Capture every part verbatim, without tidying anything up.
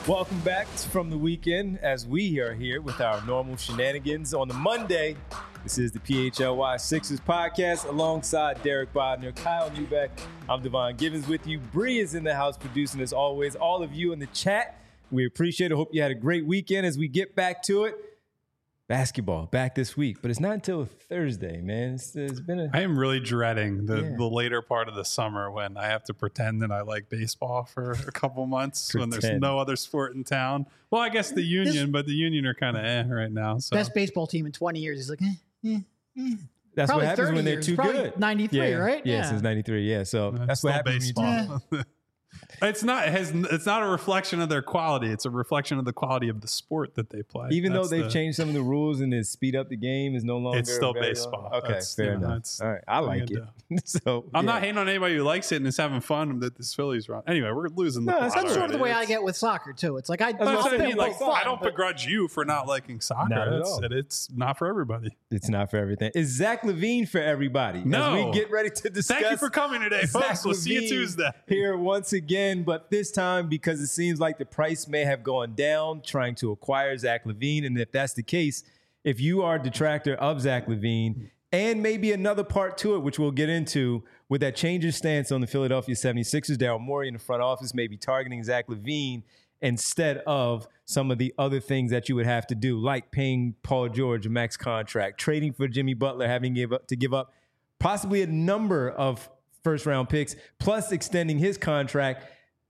Welcome back from the weekend as we are here with our normal shenanigans on the Monday. This is the P H L Y Sixers podcast alongside Derek Bodner, Kyle Neubeck. I'm Devon Givens with you. Bree is in the house producing as always. All of you in the chat, we appreciate it. Hope you had a great weekend as we get back to it. Basketball back this week, but it's not until Thursday, man. It's, it's been a. I am really dreading the, Yeah. the later part of the summer when I have to pretend that I like baseball for a couple months when there's Pretend. no other sport in town. Well, I guess the Union, but the Union are kind of eh right now. So Best baseball team in twenty years. He's like, eh, eh, eh. That's Probably what happens thirty when they're years, too probably good. ninety-three, yeah. right? Yeah, Yeah. since ninety-three. Yeah, so uh, that's still what happens. baseball. When you do- It's not it has it's not a reflection of their quality. It's a reflection of the quality of the sport that they play. Even That's though they've the- changed some of the rules and the speed up the game is no longer. It's still available. baseball. Okay, That's, fair you know, enough. it's- All right, I what are you like it. gonna so I'm yeah. not hating on anybody who likes it and is having fun that this Phillies run. Anyway, we're losing the No, plot that's That's sort of already. the way I It's- get with soccer too. It's like I, what I'll I'm saying, pick like, fun, I don't but- begrudge you for not liking soccer. Not at it's, all. it's not for everybody. It's not for everything. Is Zach LaVine for everybody? No. As we get ready to discuss. Thank you for coming today, Zach folks. We'll see you LaVine Tuesday. Here once again, but this time because it seems like the price may have gone down trying to acquire Zach LaVine. And if that's the case, if you are a detractor of Zach LaVine, and maybe another part to it, which we'll get into, with that change of stance on the Philadelphia seventy-sixers, Daryl Morey in the front office may be targeting Zach LaVine instead of some of the other things that you would have to do, like paying Paul George a max contract, trading for Jimmy Butler, having give up, to give up possibly a number of first-round picks, plus extending his contract.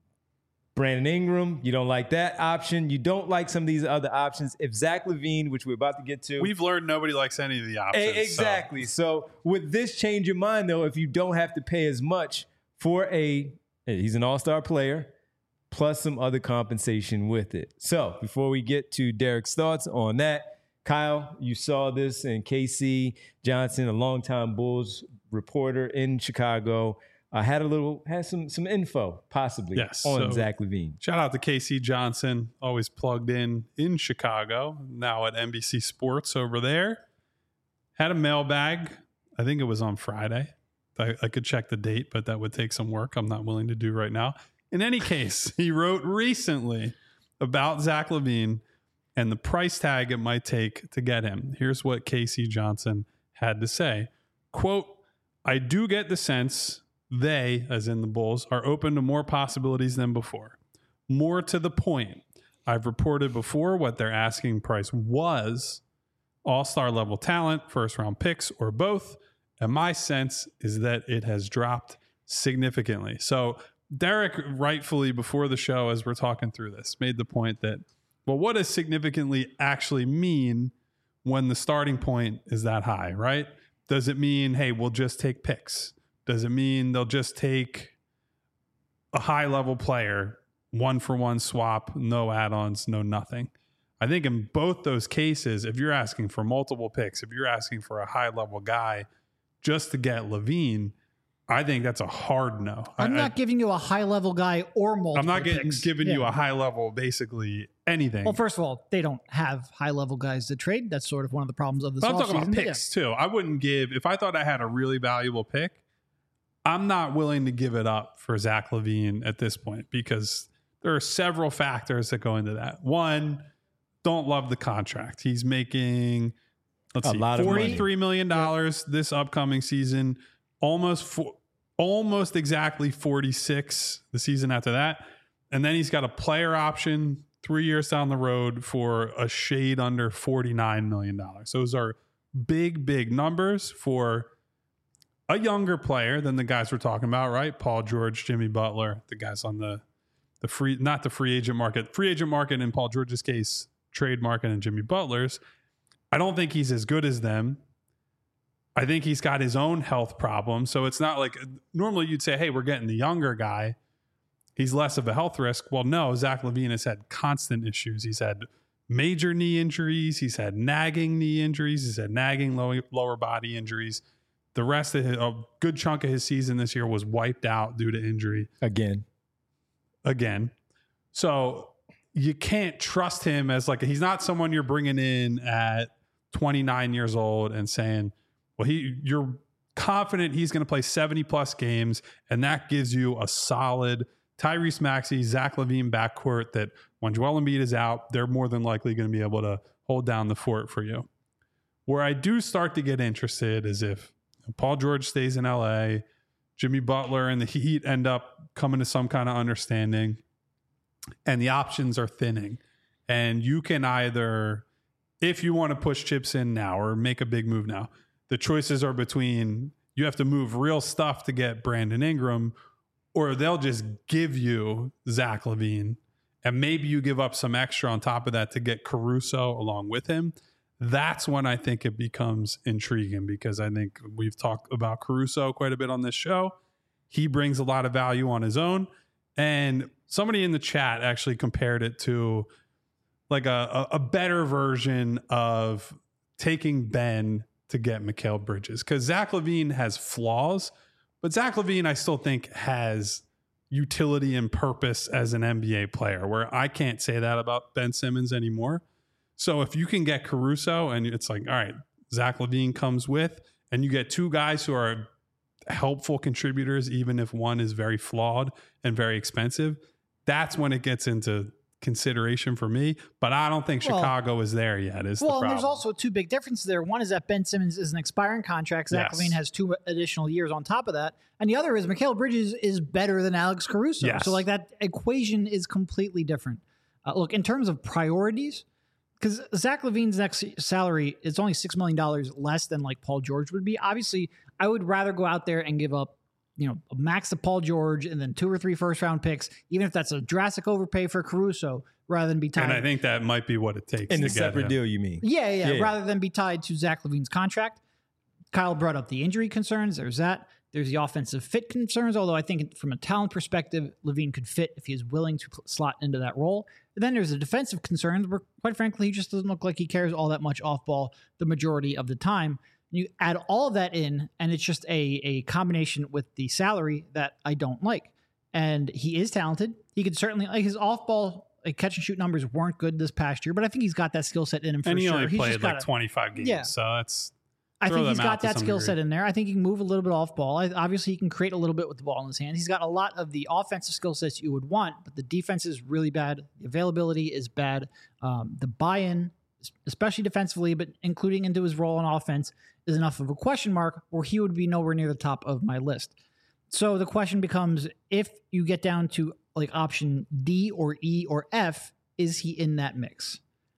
Brandon Ingram, you don't like that option. You don't like some of these other options. If Zach LaVine, which we're about to get to. We've learned nobody likes any of the options. A- exactly. So. so with this change of mind, though, if you don't have to pay as much for a, he's an all-star player, plus some other compensation with it. So before we get to Derek's thoughts on that, Kyle, you saw this, and K C Johnson, a longtime Bulls reporter in Chicago, uh, had a little, had some some info possibly Yes, on so- Zach LaVine. Shout out to K C Johnson, always plugged in in Chicago, now at N B C Sports over there. Had a mailbag. I think it was on Friday. I, I could check the date, but that would take some work I'm not willing to do right now. In any case, he wrote recently about Zach LaVine and the price tag it might take to get him. Here's what K C Johnson had to say. Quote, I do get the sense they, as in the Bulls, are open to more possibilities than before. More to the point, I've reported before what their asking price was, all-star level talent, first-round picks, or both, and my sense is that it has dropped significantly. So Derek, rightfully before the show, as we're talking through this, made the point that, well, what does significantly actually mean when the starting point is that high, right? Does it mean, hey, we'll just take picks? Does it mean they'll just take a high-level player, one-for-one swap, no add-ons, no nothing? I think in both those cases, if you're asking for multiple picks, if you're asking for a high-level guy just to get LaVine, I think that's a hard no. I'm I, not I, giving you a high level guy or multiple. I'm not getting, picks. giving you Yeah. a high-level, basically anything. Well, first of all, they don't have high level guys to trade. That's sort of one of the problems of this. But I'm talking about offseason. picks too. I wouldn't give, if I thought I had a really valuable pick, I'm not willing to give it up for Zach LaVine at this point because there are several factors that go into that. One, don't love the contract. He's making, let's A see, lot of money. forty-three million dollars this upcoming season, almost four, almost exactly forty-six the season after that. And then he's got a player option three years down the road for a shade under forty-nine million dollars. Those are big, big numbers for a younger player than the guys we're talking about, right? Paul George, Jimmy Butler, the guys on the the free, not the free agent market, free agent market in Paul George's case, trade market and Jimmy Butler's. I don't think he's as good as them. I think he's got his own health problems. So it's not like normally you'd say, hey, we're getting the younger guy. He's less of a health risk. Well, no, Zach LaVine has had constant issues. He's had major knee injuries. He's had nagging knee injuries. He's had nagging low, lower body injuries. The rest of his, a good chunk of his season this year was wiped out due to injury. Again. Again. So you can't trust him as like, he's not someone you're bringing in at twenty-nine years old and saying, well, he, you're confident he's going to play seventy plus games and that gives you a solid Tyrese Maxey, Zach LaVine backcourt that when Joel Embiid is out, they're more than likely going to be able to hold down the fort for you. Where I do start to get interested is if Paul George stays in L A, Jimmy Butler and the Heat end up coming to some kind of understanding, and the options are thinning. And you can either, if you want to push chips in now or make a big move now, the choices are between you have to move real stuff to get Brandon Ingram, or they'll just give you Zach LaVine, and maybe you give up some extra on top of that to get Caruso along with him. That's when I think it becomes intriguing, because I think we've talked about Caruso quite a bit on this show. He brings a lot of value on his own. And somebody in the chat actually compared it to like a, a, a better version of taking Ben to get Mikal Bridges. Because Zach LaVine has flaws, but Zach LaVine I still think has utility and purpose as an N B A player, where I can't say that about Ben Simmons anymore. So if you can get Caruso and it's like, all right, Zach LaVine comes with, and you get two guys who are helpful contributors, even if one is very flawed and very expensive, that's when it gets into consideration for me. But I don't think well, Chicago is there yet. Is well, the problem. And there's also two big differences there. One is that Ben Simmons is an expiring contract. Zach yes. LaVine has two additional years on top of that. And the other is Mikal Bridges is better than Alex Caruso. Yes. So like that equation is completely different. Uh, look, in terms of priorities, because Zach LaVine's next salary is only six million dollars less than like Paul George would be. Obviously, I would rather go out there and give up, you know, a max of Paul George and then two or three first round picks, even if that's a drastic overpay for Caruso, rather than be tied. And I think that might be what it takes. In to a separate him. deal, you mean? Yeah, yeah, yeah. Rather than be tied to Zach LaVine's contract. Kyle brought up the injury concerns. There's that. There's the offensive fit concerns, although I think from a talent perspective, LaVine could fit if he is willing to slot into that role. And then there's the defensive concerns where, quite frankly, he just doesn't look like he cares all that much off ball the majority of the time. You add all of that in, and it's just a, a combination with the salary that I don't like. And he is talented. He could certainly, like his off ball like catch and shoot numbers weren't good this past year, but I think he's got that skill set in him for and he sure. only He's played just like gotta, twenty-five games, yeah. so that's. I think he's them got out to that some skill degree. set in there. I think he can move a little bit off ball. I, obviously, he can create a little bit with the ball in his hands. He's got a lot of the offensive skill sets you would want, but the defense is really bad. The availability is bad. Um, the buy-in, especially defensively, but including into his role on offense, is enough of a question mark where he would be nowhere near the top of my list. So the question becomes, if you get down to like option D or E or F, is he in that mix?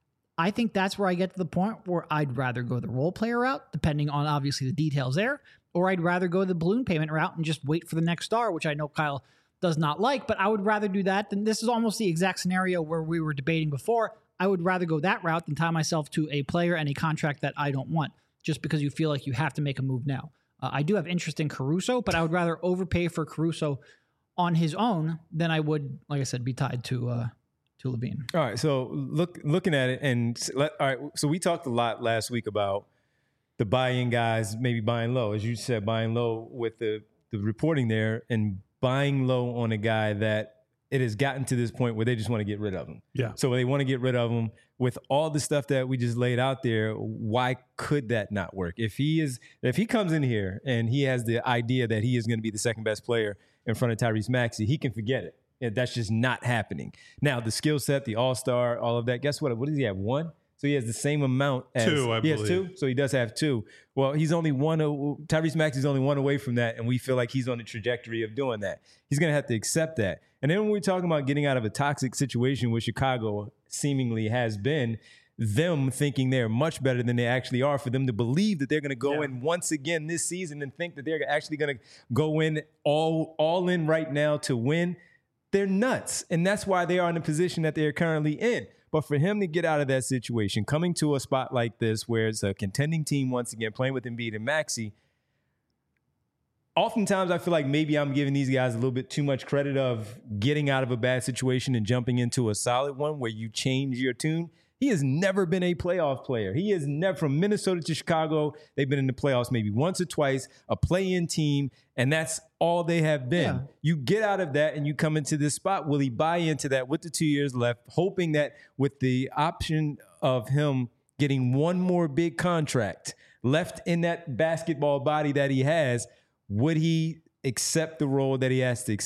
I think that's where I get to the point where I'd rather go the role player route, depending on obviously the details there, or I'd rather go the balloon payment route and just wait for the next star, which I know Kyle does not like, but I would rather do that than this is almost the exact scenario where we were debating before. I would rather go that route than tie myself to a player and a contract that I don't want, just because you feel like you have to make a move now. Uh, I do have interest in Caruso, but I would rather overpay for Caruso on his own than I would, like I said, be tied to uh, to LaVine. All right, so look, looking at it, and let, all right, so we talked a lot last week about the buy-in guys maybe buying low, as you said, buying low with the the reporting there, and buying low on a guy that it has gotten to this point where they just want to get rid of him. Yeah. So they want to get rid of him with all the stuff that we just laid out there. Why could that not work? If he is, if he comes in here and he has the idea that he is going to be the second best player in front of Tyrese Maxey, he can forget it. And that's just not happening. Now, the skill set, the all-star, all of that, guess what? What does he have? One? So he has the same amount as two, I he believe. has two. So he does have two. Well, he's only one. Tyrese Maxey's only one away from that, and we feel like he's on the trajectory of doing that. He's going to have to accept that. And then when we're talking about getting out of a toxic situation, which Chicago seemingly has been, them thinking they're much better than they actually are, for them to believe that they're going to go yeah. in once again this season and think that they're actually going to go in all all in right now to win. They're nuts. And that's why they are in the position that they're currently in. But for him to get out of that situation, coming to a spot like this where it's a contending team once again, playing with Embiid and Maxey, oftentimes I feel like maybe I'm giving these guys a little bit too much credit of getting out of a bad situation and jumping into a solid one where you change your tune. He has never been a playoff player. He has never, from Minnesota to Chicago, they've been in the playoffs maybe once or twice, a play-in team, and that's all they have been. Yeah. You get out of that and you come into this spot. Will he buy into that with the two years left, hoping that with the option of him getting one more big contract left in that basketball body that he has, would he accept the role that he has to accept,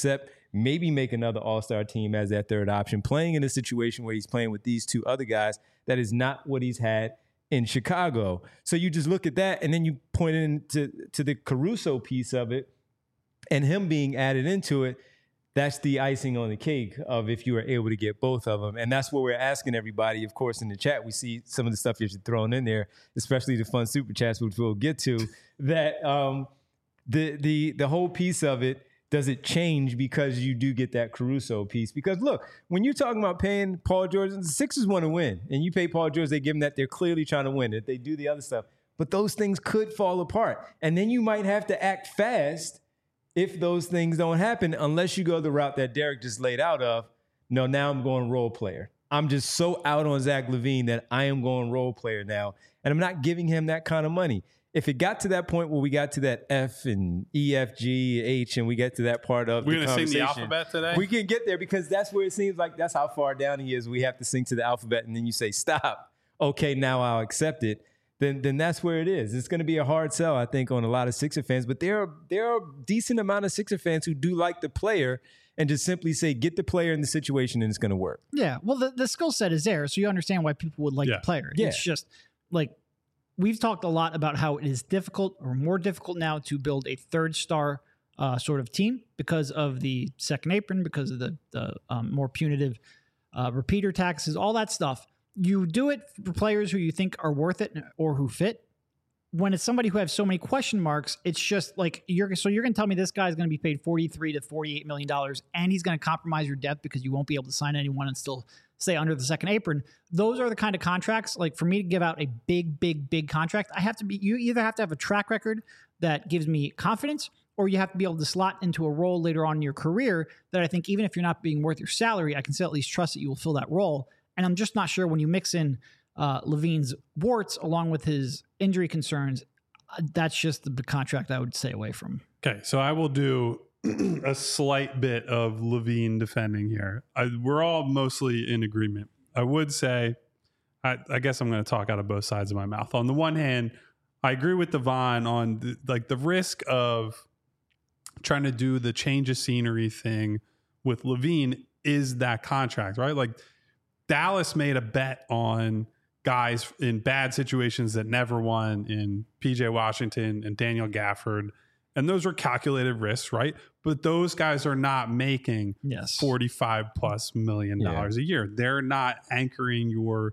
maybe make another all-star team as that third option, playing in a situation where he's playing with these two other guys. That is not what he's had in Chicago. So you just look at that, and then you point into to the Caruso piece of it, and him being added into it. That's the icing on the cake of if you are able to get both of them. And that's what we're asking everybody. Of course, in the chat, we see some of the stuff you're throwing in there, especially the fun super chats, which we'll get to, that um, the the the whole piece of it, does it change because you do get that Caruso piece? Because look, when you're talking about paying Paul George, the Sixers want to win, and you pay Paul George, they give him that they're clearly trying to win. If they do the other stuff, but those things could fall apart. And then you might have to act fast if those things don't happen, unless you go the route that Derek just laid out of, no, now I'm going role player. I'm just so out on Zach LaVine that I am going role player now, and I'm not giving him that kind of money. If it got to that point where we got to that F and E, F, G, H, and we get to that part of We're the gonna conversation, sing the alphabet today? we can get there because that's where it seems like that's how far down he is. We have to sing to the alphabet, and then you say, stop. Okay, now I'll accept it. Then, then that's where it is. It's going to be a hard sell, I think, on a lot of Sixer fans. But there are there are a decent amount of Sixer fans who do like the player and just simply say, get the player in the situation and it's going to work. Yeah, well, the, the skill set is there, so you understand why people would like Yeah. the player. Yeah. It's just like we've talked a lot about how it is difficult or more difficult now to build a third star uh, sort of team because of the second apron, because of the, the um, more punitive uh, repeater taxes, all that stuff. You do it for players who you think are worth it or who fit. When it's somebody who has so many question marks, it's just like you're so you're going to tell me this guy is going to be paid forty-three to forty-eight million dollars and he's going to compromise your depth because you won't be able to sign anyone and still stay under the second apron. Those are the kind of contracts, like for me to give out a big, big, big contract, I have to be, you either have to have a track record that gives me confidence, or you have to be able to slot into a role later on in your career that I think even if you're not being worth your salary, I can still at least trust that you will fill that role. And I'm just not sure when you mix in uh, LaVine's warts along with his injury concerns, uh, that's just the contract I would stay away from. Okay, so I will do a slight bit of LaVine defending here. I, we're all mostly in agreement. I would say, I, I guess I'm going to talk out of both sides of my mouth. On the one hand, I agree with Devon on the, like the risk of trying to do the change of scenery thing with LaVine is that contract, right? Like Dallas made a bet on guys in bad situations that never won in P J Washington and Daniel Gafford. And those are calculated risks, right? But those guys are not making yes. forty-five plus million dollars yeah. a year. They're not anchoring your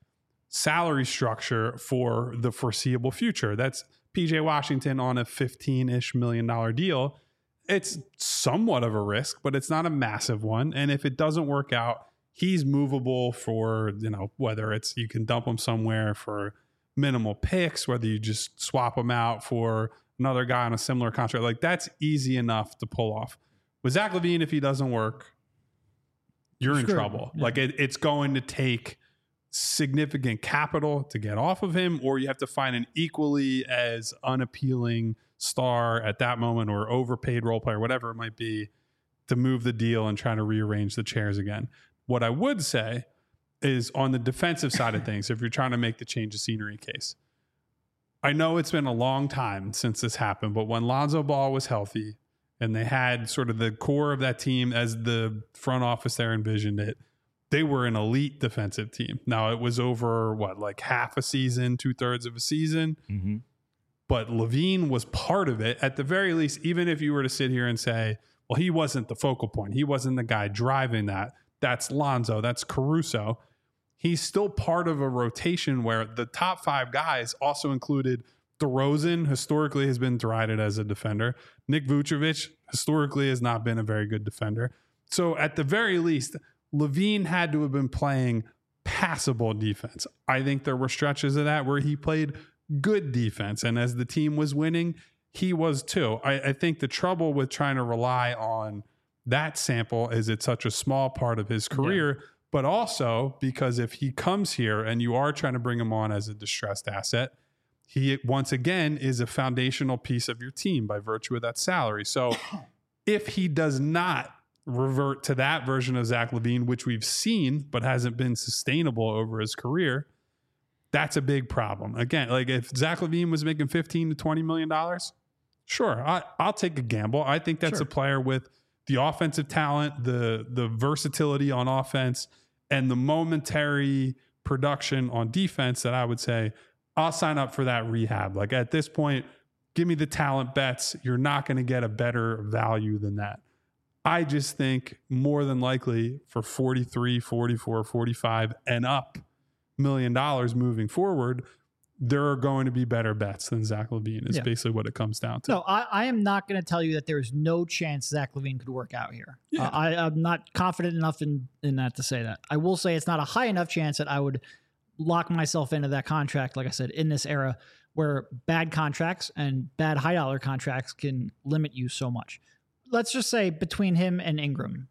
salary structure for the foreseeable future. That's P J Washington on a fifteen-ish million dollar deal. It's somewhat of a risk, but it's not a massive one. And if it doesn't work out, he's movable for, you know, whether it's you can dump him somewhere for minimal picks, whether you just swap him out for another guy on a similar contract. Like that's easy enough to pull off. With Zach LaVine, if he doesn't work, you're in Sure. trouble. Yeah. Like it, it's going to take significant capital to get off of him, or you have to find an equally as unappealing star at that moment or overpaid role player, whatever it might be, to move the deal and try to rearrange the chairs again. What I would say is on the defensive side of things, if you're trying to make the change of scenery case, I know it's been a long time since this happened, but when Lonzo Ball was healthy and they had sort of the core of that team as the front office there envisioned it, they were an elite defensive team. Now it was over what, like half a season, two thirds of a season, Mm-hmm. but LaVine was part of it at the very least. Even if you were to sit here and say, well, he wasn't the focal point, he wasn't the guy driving that. That's Lonzo, that's Caruso. He's still part of a rotation where the top five guys also included DeRozan, historically has been derided as a defender. Nick Vucevic, historically has not been a very good defender. So at the very least, LaVine had to have been playing passable defense. I think there were stretches of that where he played good defense. And as the team was winning, he was too. I, I think the trouble with trying to rely on that sample is it's such a small part of his career, yeah. but also because if he comes here and you are trying to bring him on as a distressed asset, he once again is a foundational piece of your team by virtue of that salary. So if he does not revert to that version of Zach LaVine, which we've seen but hasn't been sustainable over his career, that's a big problem. Again, like if Zach LaVine was making fifteen to twenty million dollars, sure, I, I'll take a gamble. I think that's Sure. a player with the offensive talent, the the versatility on offense, and the momentary production on defense that I would say I'll sign up for that rehab. Like at this point, give me the talent bets. You're not going to get a better value than that. I just think more than likely for forty-three, forty-four, forty-five and up million dollars moving forward, there are going to be better bets than Zach LaVine is yeah. basically what it comes down to. No, I, I am not going to tell you that there's no chance Zach LaVine could work out here. Yeah. Uh, I, I'm not confident enough in, in that to say that. I will say it's not a high enough chance that I would lock myself into that contract, like I said, in this era where bad contracts and bad high dollar contracts can limit you so much. Let's just say between him and Ingram,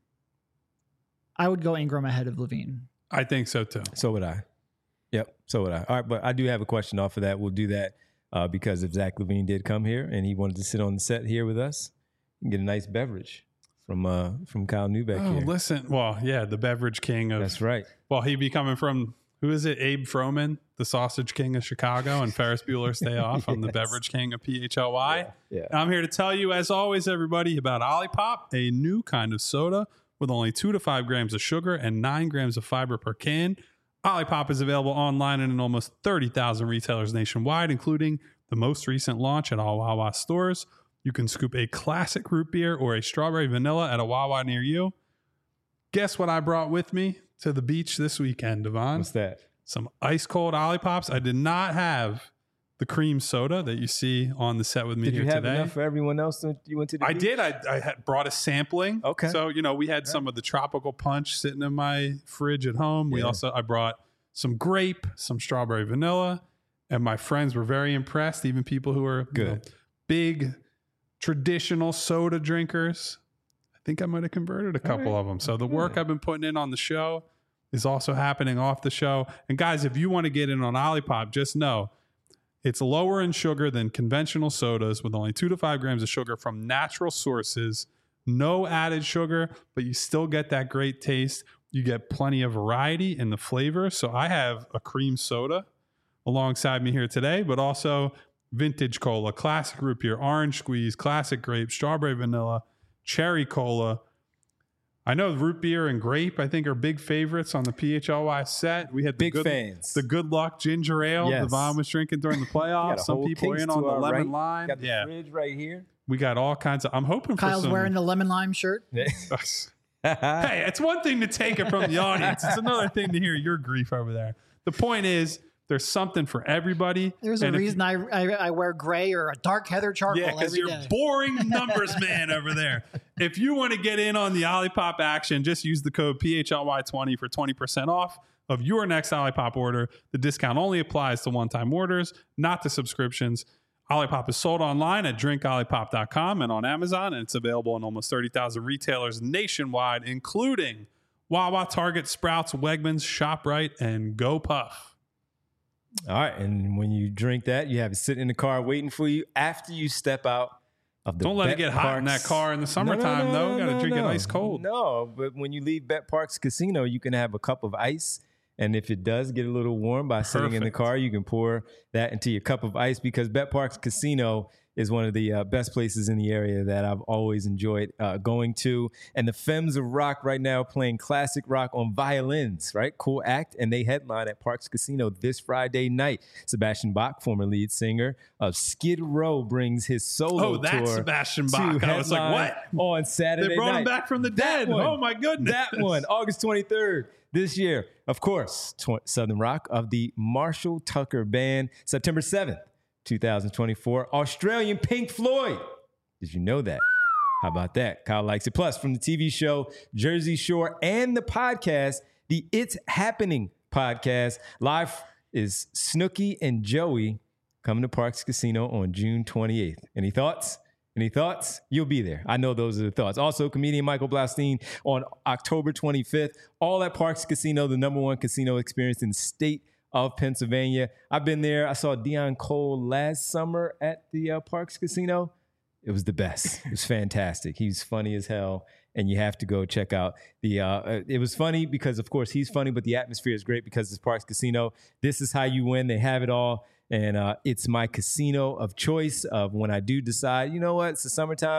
I would go Ingram ahead of LaVine. I think so too. So would I. Yep, so would I. All right, but I do have a question off of that. We'll do that uh, because if Zach LaVine did come here and he wanted to sit on the set here with us, you can get a nice beverage from uh, from Kyle Neubeck oh, here. Listen, well, yeah, the beverage king of... That's right. Well, he'd be coming from, who is it, Abe Froman, the sausage king of Chicago, and Ferris Bueller's Day Off. I'm yes. the beverage king of P H L Y. Yeah, yeah. I'm here to tell you, as always, everybody, about Olipop, a new kind of soda with only two to five grams of sugar and nine grams of fiber per can. Olipop is available online and in almost thirty thousand retailers nationwide, including the most recent launch at all Wawa stores. You can scoop a classic root beer or a strawberry vanilla at a Wawa near you. Guess what I brought with me to the beach this weekend, Devon? What's that? Some ice cold Olipops. I did not have the cream soda that you see on the set with me did here you have today. Enough for everyone else that you went to the I beach? did. I, I had brought a sampling. Okay. So, you know, we had yeah. some of the tropical punch sitting in my fridge at home. We yeah. also, I brought some grape, some strawberry vanilla, and my friends were very impressed. Even people who are good, you know, big traditional soda drinkers. I think I might have converted a couple right. of them. So the work yeah. I've been putting in on the show is also happening off the show. And guys, if you want to get in on Olipop, just know it's lower in sugar than conventional sodas with only two to five grams of sugar from natural sources. No added sugar, but you still get that great taste. You get plenty of variety in the flavor. So I have a cream soda alongside me here today, but also vintage cola, classic root beer, orange squeeze, classic grape, strawberry vanilla, cherry cola. I know root beer and grape, I think, are big favorites on the P H L Y set. We had the big good, fans. The Good Luck ginger ale yes. Devon was drinking during the playoffs. Some people are in on the lemon right. lime. Got the yeah. fridge right here. We got all kinds of. I'm hoping Kyle's for some. wearing the lemon lime shirt. Hey, it's one thing to take it from the audience. It's another thing to hear your grief over there. The point is, there's something for everybody. There's a and reason I, I I wear gray or a dark heather charcoal yeah, because you're day. boring numbers man over there. If you want to get in on the Olipop action, just use the code P H L Y twenty for twenty percent off of your next Olipop order. The discount only applies to one-time orders, not to subscriptions. Olipop is sold online at drink olipop dot com and on Amazon, and it's available in almost thirty thousand retailers nationwide, including Wawa, Target, Sprouts, Wegmans, ShopRite, and GoPuff. All right, and when you drink that, you have it sitting in the car waiting for you after you step out of the Don't let Bet it get Parks. hot in that car in the summertime, no, no, no, though. No, Got to no, drink no. it ice cold. No, but when you leave Bet Parks Casino, you can have a cup of ice. And if it does get a little warm by sitting Perfect. in the car, you can pour that into your cup of ice because Bet Parks Casino is one of the uh, best places in the area that I've always enjoyed uh, going to. And the Femmes of Rock right now playing classic rock on violins, right? Cool act. And they headline at Parks Casino this Friday night. Sebastian Bach, former lead singer of Skid Row, brings his solo oh, that's tour. Sebastian Bach. I was like, what? On Saturday They brought night. him back from the That dead. one. Oh, my goodness. That one, August twenty-third. This year, of course, tw- Southern Rock of the Marshall Tucker Band, September seventh, twenty twenty-four. Australian Pink Floyd. Did you know that? How about that? Kyle likes it. Plus, from the T V show Jersey Shore and the podcast, the It's Happening podcast, live is Snooki and Joey coming to Parks Casino on June twenty-eighth. Any thoughts? Any thoughts? You'll be there. I know those are the thoughts. Also, comedian Michael Blaustein on October twenty-fifth. All at Parks Casino, the number one casino experience in the state of Pennsylvania. I've been there. I saw Deion Cole last summer at the uh, Parks Casino. It was the best. It was fantastic. He's funny as hell, and you have to go check out the. Uh, it was funny because, of course, he's funny, but the atmosphere is great because it's Parks Casino. This is how you win. They have it all. And uh, it's my casino of choice of when I do decide, you know what, it's the summertime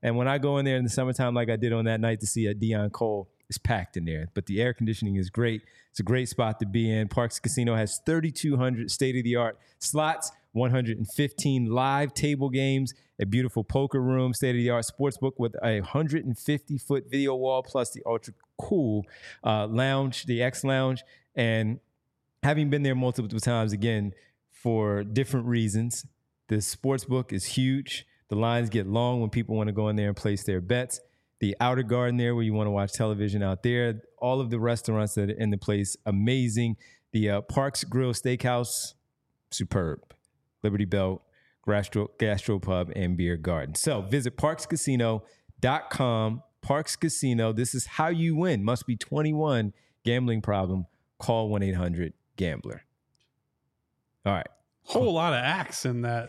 And when I go in there in the summertime, like I did on that night to see a Deion Cole, it's packed in there. But the air conditioning is great. It's a great spot to be in. Parx Casino has thirty-two hundred state-of-the-art slots, one hundred fifteen live table games, a beautiful poker room, state-of-the-art sports book with a one hundred fifty foot video wall, plus the ultra cool uh, lounge, the X Lounge. And having been there multiple times, again, for different reasons, the sports book is huge. The lines get long when people want to go in there and place their bets. The outer garden there where you want to watch television out there. All of the restaurants that are in the place, amazing. The uh, Parx Grill Steakhouse, superb. Liberty Belt, Gastro, Gastropub, and Beer Garden. So visit parx casino dot com. Parx Casino, this is how you win. Must be twenty-one. Gambling problem, call one eight hundred gambler. All right. Whole lot of acts in that.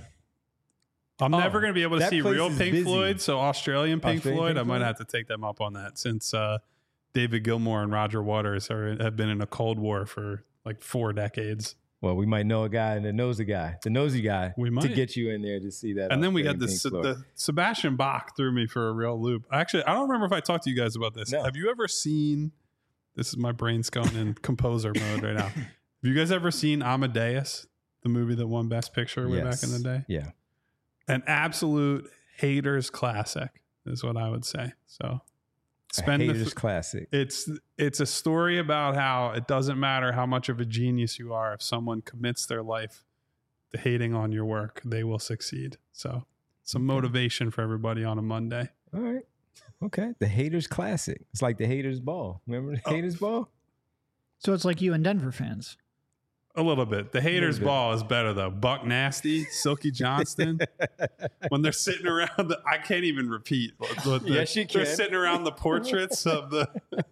I'm Oh, never going to be able to that see place real is Pink busy. Floyd, so Australian Pink Australian Floyd, Pink I might Floyd? have to take them up on that since uh, David Gilmour and Roger Waters are, have been in a Cold War for like four decades. Well, we might know a guy that knows a guy, the nosy guy, We to might. get you in there to see that. And then we got Australian this, Pink Floyd. the Sebastian Bach threw me for a real loop. Actually, I don't remember if I talked to you guys about this. No. Have you ever seen, this is my brain's going in composer mode right now. Have you guys ever seen Amadeus, the movie that won Best Picture way Yes. back in the day? Yeah. An absolute haters classic is what I would say. So spend a the haters th- classic. it's it's a story about how it doesn't matter how much of a genius you are. If someone commits their life to hating on your work, they will succeed. So some motivation for everybody on a Monday. All right. Okay. The haters classic. It's like the haters ball. Remember the Oh. haters ball? So it's like you and Denver fans. A little bit. The haters bit. ball is better though. Buck Nasty, Silky Johnston. When they're sitting around, the, I can't even repeat. what- what the- Yes, you They're can. sitting around the portraits of the.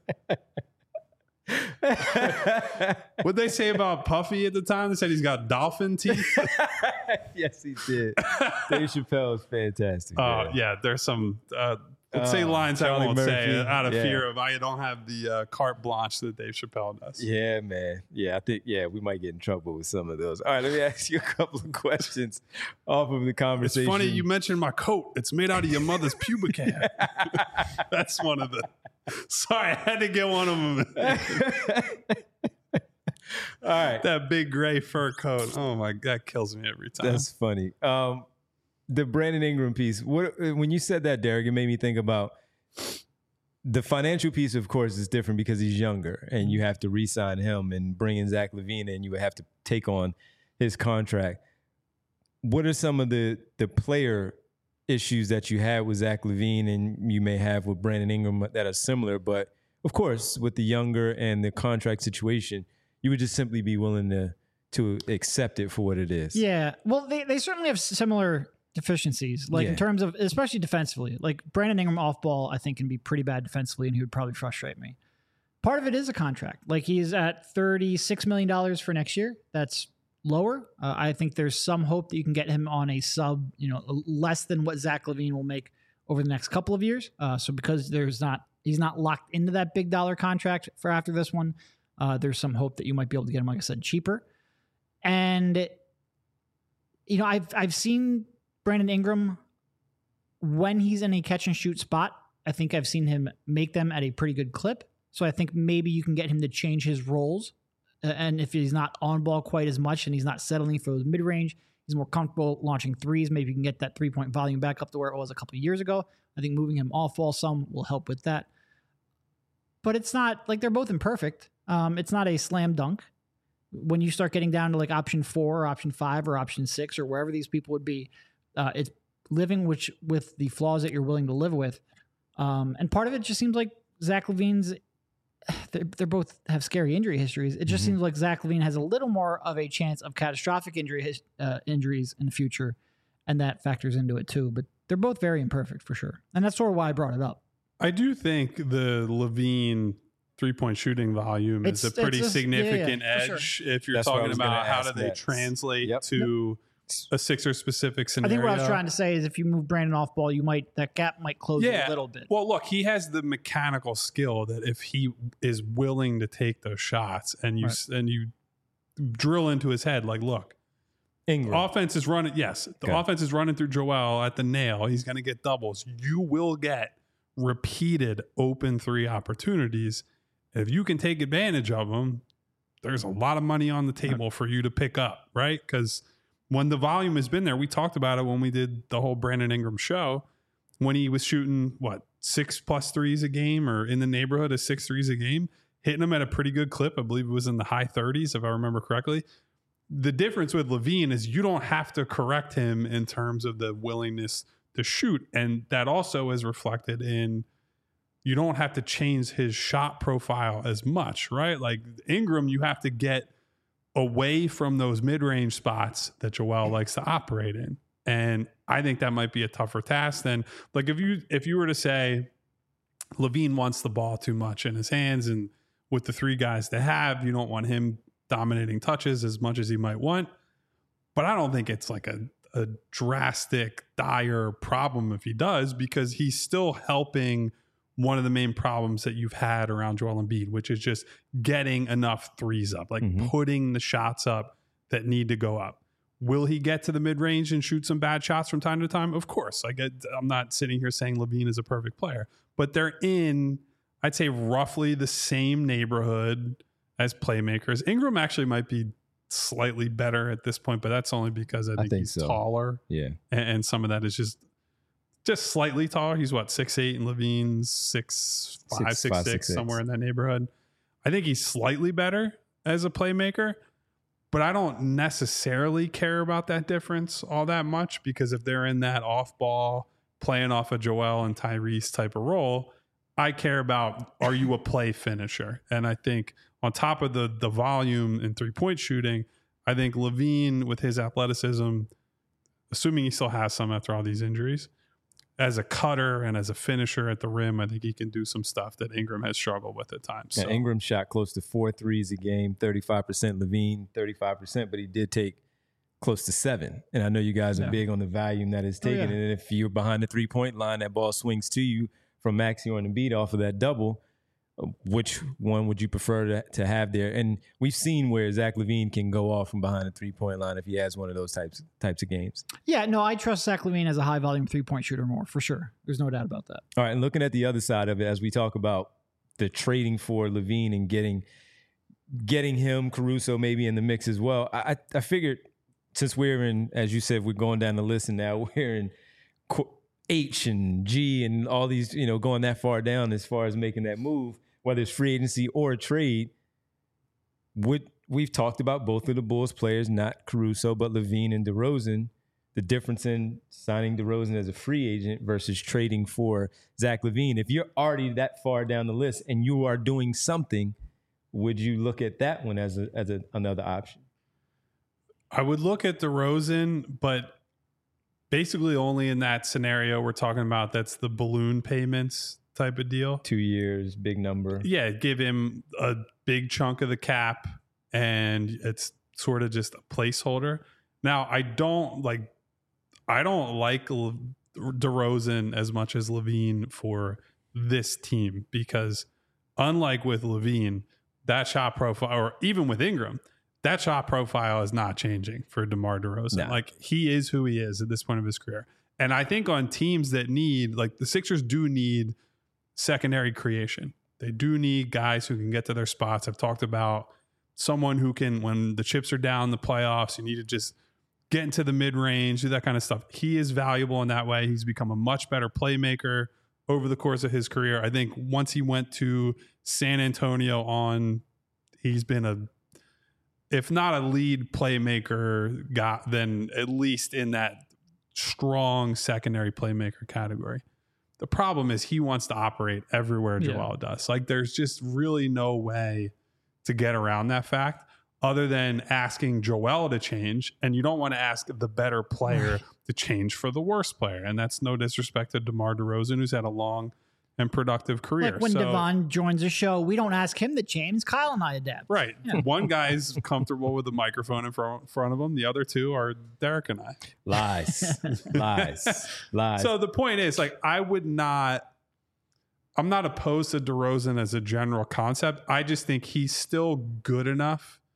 What'd they say about Puffy at the time? They said he's got dolphin teeth. Yes, he did. Dave Chappelle is fantastic. Uh, man. yeah, there's some. Uh, let's say Oh, lines I Charlie won't say Murphy. out of Yeah. fear of I don't have the uh, carte blanche that Dave Chappelle does. Yeah, man. Yeah, I think, yeah, we might get in trouble with some of those. All right, let me ask you a couple of questions off of the It's conversation. funny you mentioned my coat. It's made out of your mother's pubic hair. That's one of the. Sorry, I had to get one of them. All right. That big gray fur coat. Oh my, that kills me every time. That's funny. Um, the Brandon Ingram piece. What when you said that, Derek, it made me think about the financial piece. Of course, is different because he's younger, and you have to re-sign him and bring in Zach LaVine, and you would have to take on his contract. What are some of the the player issues that you had with Zach LaVine, and you may have with Brandon Ingram that are similar? But of course, with the younger and the contract situation, you would just simply be willing to to accept it for what it is. Yeah. Well, they, they certainly have similar deficiencies, like Yeah. in terms of, especially defensively. Like Brandon Ingram off ball, I think can be pretty bad defensively, and he would probably frustrate me. Part of it is a contract. Like he's at thirty-six million dollars for next year. That's lower. Uh, I think there's some hope that you can get him on a sub, you know, less than what Zach LaVine will make over the next couple of years. Uh, so because there's not, he's not locked into that big dollar contract for after this one. Uh, there's some hope that you might be able to get him, like I said, cheaper. And, you know, I've I've seen Brandon Ingram when he's in a catch and shoot spot. I think I've seen him make them at a pretty good clip. So I think maybe you can get him to change his roles. Uh, and if he's not on ball quite as much and he's not settling for those mid range, he's more comfortable launching threes. Maybe you can get that three point volume back up to where it was a couple of years ago. I think moving him off ball some will help with that. But it's not like they're both imperfect. Um, it's not a slam dunk. When you start getting down to like option four or option five or option six or wherever these people would be, uh, it's living which with the flaws that you're willing to live with. Um, and part of it just seems like Zach LaVine's, they're, they're both have scary injury histories. It just Mhm. seems like Zach LaVine has a little more of a chance of catastrophic injury his, uh, injuries in the future. And that factors into it too. But they're both very imperfect for sure. And that's sort of why I brought it up. I do think the Levine three-point shooting volume It's- is a pretty it's a- significant yeah, yeah, for edge if you're That's what I talking was gonna about how do ask they next. translate Yep. to a Sixer-specific I scenario. think what I was trying to say is if you move Brandon off ball, you might, that gap might close Yeah. a little bit. Well, look, he has the mechanical skill that if he is willing to take those shots and you Right. and you drill into his head, like, look, Ingram. offense is running. Yes, the Okay. offense is running through Joel at the nail. He's going to get doubles. You will get repeated open three opportunities. If you can take advantage of them, there's a lot of money on the table for you to pick up, right? Because when the volume has been there, we talked about it when we did the whole Brandon Ingram show, when he was shooting, what, six plus threes a game or in the neighborhood of six threes a game, hitting them at a pretty good clip. I believe it was in the high thirties, if I remember correctly. The difference with LaVine is you don't have to correct him in terms of the willingness to shoot. And that also is reflected in you don't have to change his shot profile as much, right? Like Ingram, you have to get away from those mid-range spots that Joel likes to operate in. And I think that might be a tougher task than, like, if you if you were to say LaVine wants the ball too much in his hands, and with the three guys they have, you don't want him dominating touches as much as he might want. But I don't think it's like a, a drastic, dire problem if he does, because he's still helping one of the main problems that you've had around Joel Embiid, which is just getting enough threes up, like Mhm. putting the shots up that need to go up. Will he get to the mid range and shoot some bad shots from time to time? Of course. I get, I'm not sitting here saying LaVine is a perfect player, but they're in, I'd say, roughly the same neighborhood as playmakers. Ingram actually might be slightly better at this point, but that's only because I think, think he's so. taller, Yeah. and, and some of that is just just slightly taller. He's what, six eight, and LaVine's six five, Six, six five, six, six, six. somewhere in that neighborhood. I think he's slightly better as a playmaker, but I don't necessarily care about that difference all that much, because if they're in that off ball, playing off of Joel and Tyrese type of role, I care about, are you a play finisher? And I think on top of the the volume and three point shooting, I think LaVine with his athleticism, assuming he still has some after all these injuries, as a cutter and as a finisher at the rim, I think he can do some stuff that Ingram has struggled with at times. Yeah, So, Ingram shot close to four threes a game, thirty-five percent. LaVine, thirty-five percent, but he did take close to seven. And I know you guys are Yeah. big on the volume that is Oh, taken. yeah. And if you're behind the three-point line, that ball swings to you from Maxey or Embiid off of that double. Which one would you prefer to, to have there? And we've seen where Zach LaVine can go off from behind the three-point line if he has one of those types types of games. Yeah, no, I trust Zach LaVine as a high volume three point shooter more, for sure. There's no doubt about that. All right, and looking at the other side of it, as we talk about the trading for LaVine and getting getting him, Caruso maybe in the mix as well, I, I I figured since we're in, as you said, we're going down the list, and now we're in Qu- H and G and all these, you know, going that far down as far as making that move, whether it's free agency or a trade. Would we've talked about both of the Bulls players, not Caruso, but LaVine and DeRozan. The difference in signing DeRozan as a free agent versus trading for Zach LaVine. If you're already that far down the list and you are doing something, would you look at that one as a as a, another option? I would look at DeRozan, but basically only in that scenario we're talking about. That's the balloon payments type of deal. Two years, big number. Yeah, give him a big chunk of the cap, and it's sort of just a placeholder. Now, I don't like, I don't like Le- DeRozan as much as LaVine for this team, because unlike with LaVine, that shot profile, or even with Ingram, that shot profile is not changing for DeMar DeRozan. No. Like, he is who he is at this point of his career. And I think on teams that need, like the Sixers do need secondary creation. They do need guys who can get to their spots. I've talked about someone who can, when the chips are down in the playoffs, you need to just get into the mid-range, do that kind of stuff. He is valuable in that way. He's become a much better playmaker over the course of his career. I think once he went to San Antonio on, he's been a, if not a lead playmaker guy, then at least in that strong secondary playmaker category. The problem is he wants to operate everywhere Joel Yeah. does. Like, there's just really no way to get around that fact other than asking Joel to change. And you don't want to ask the better player to change for the worst player. And that's no disrespect to DeMar DeRozan, who's had a long and productive career. Like when So- Devon joins a show, we don't ask him to change. Kyle and I adapt. Right. One guy's comfortable with the microphone in front, front of him. The other two are Derek and I. Lies, lies, lies. So the point is, like, I would not, I'm not opposed to DeRozan as a general concept. I just think he's still good enough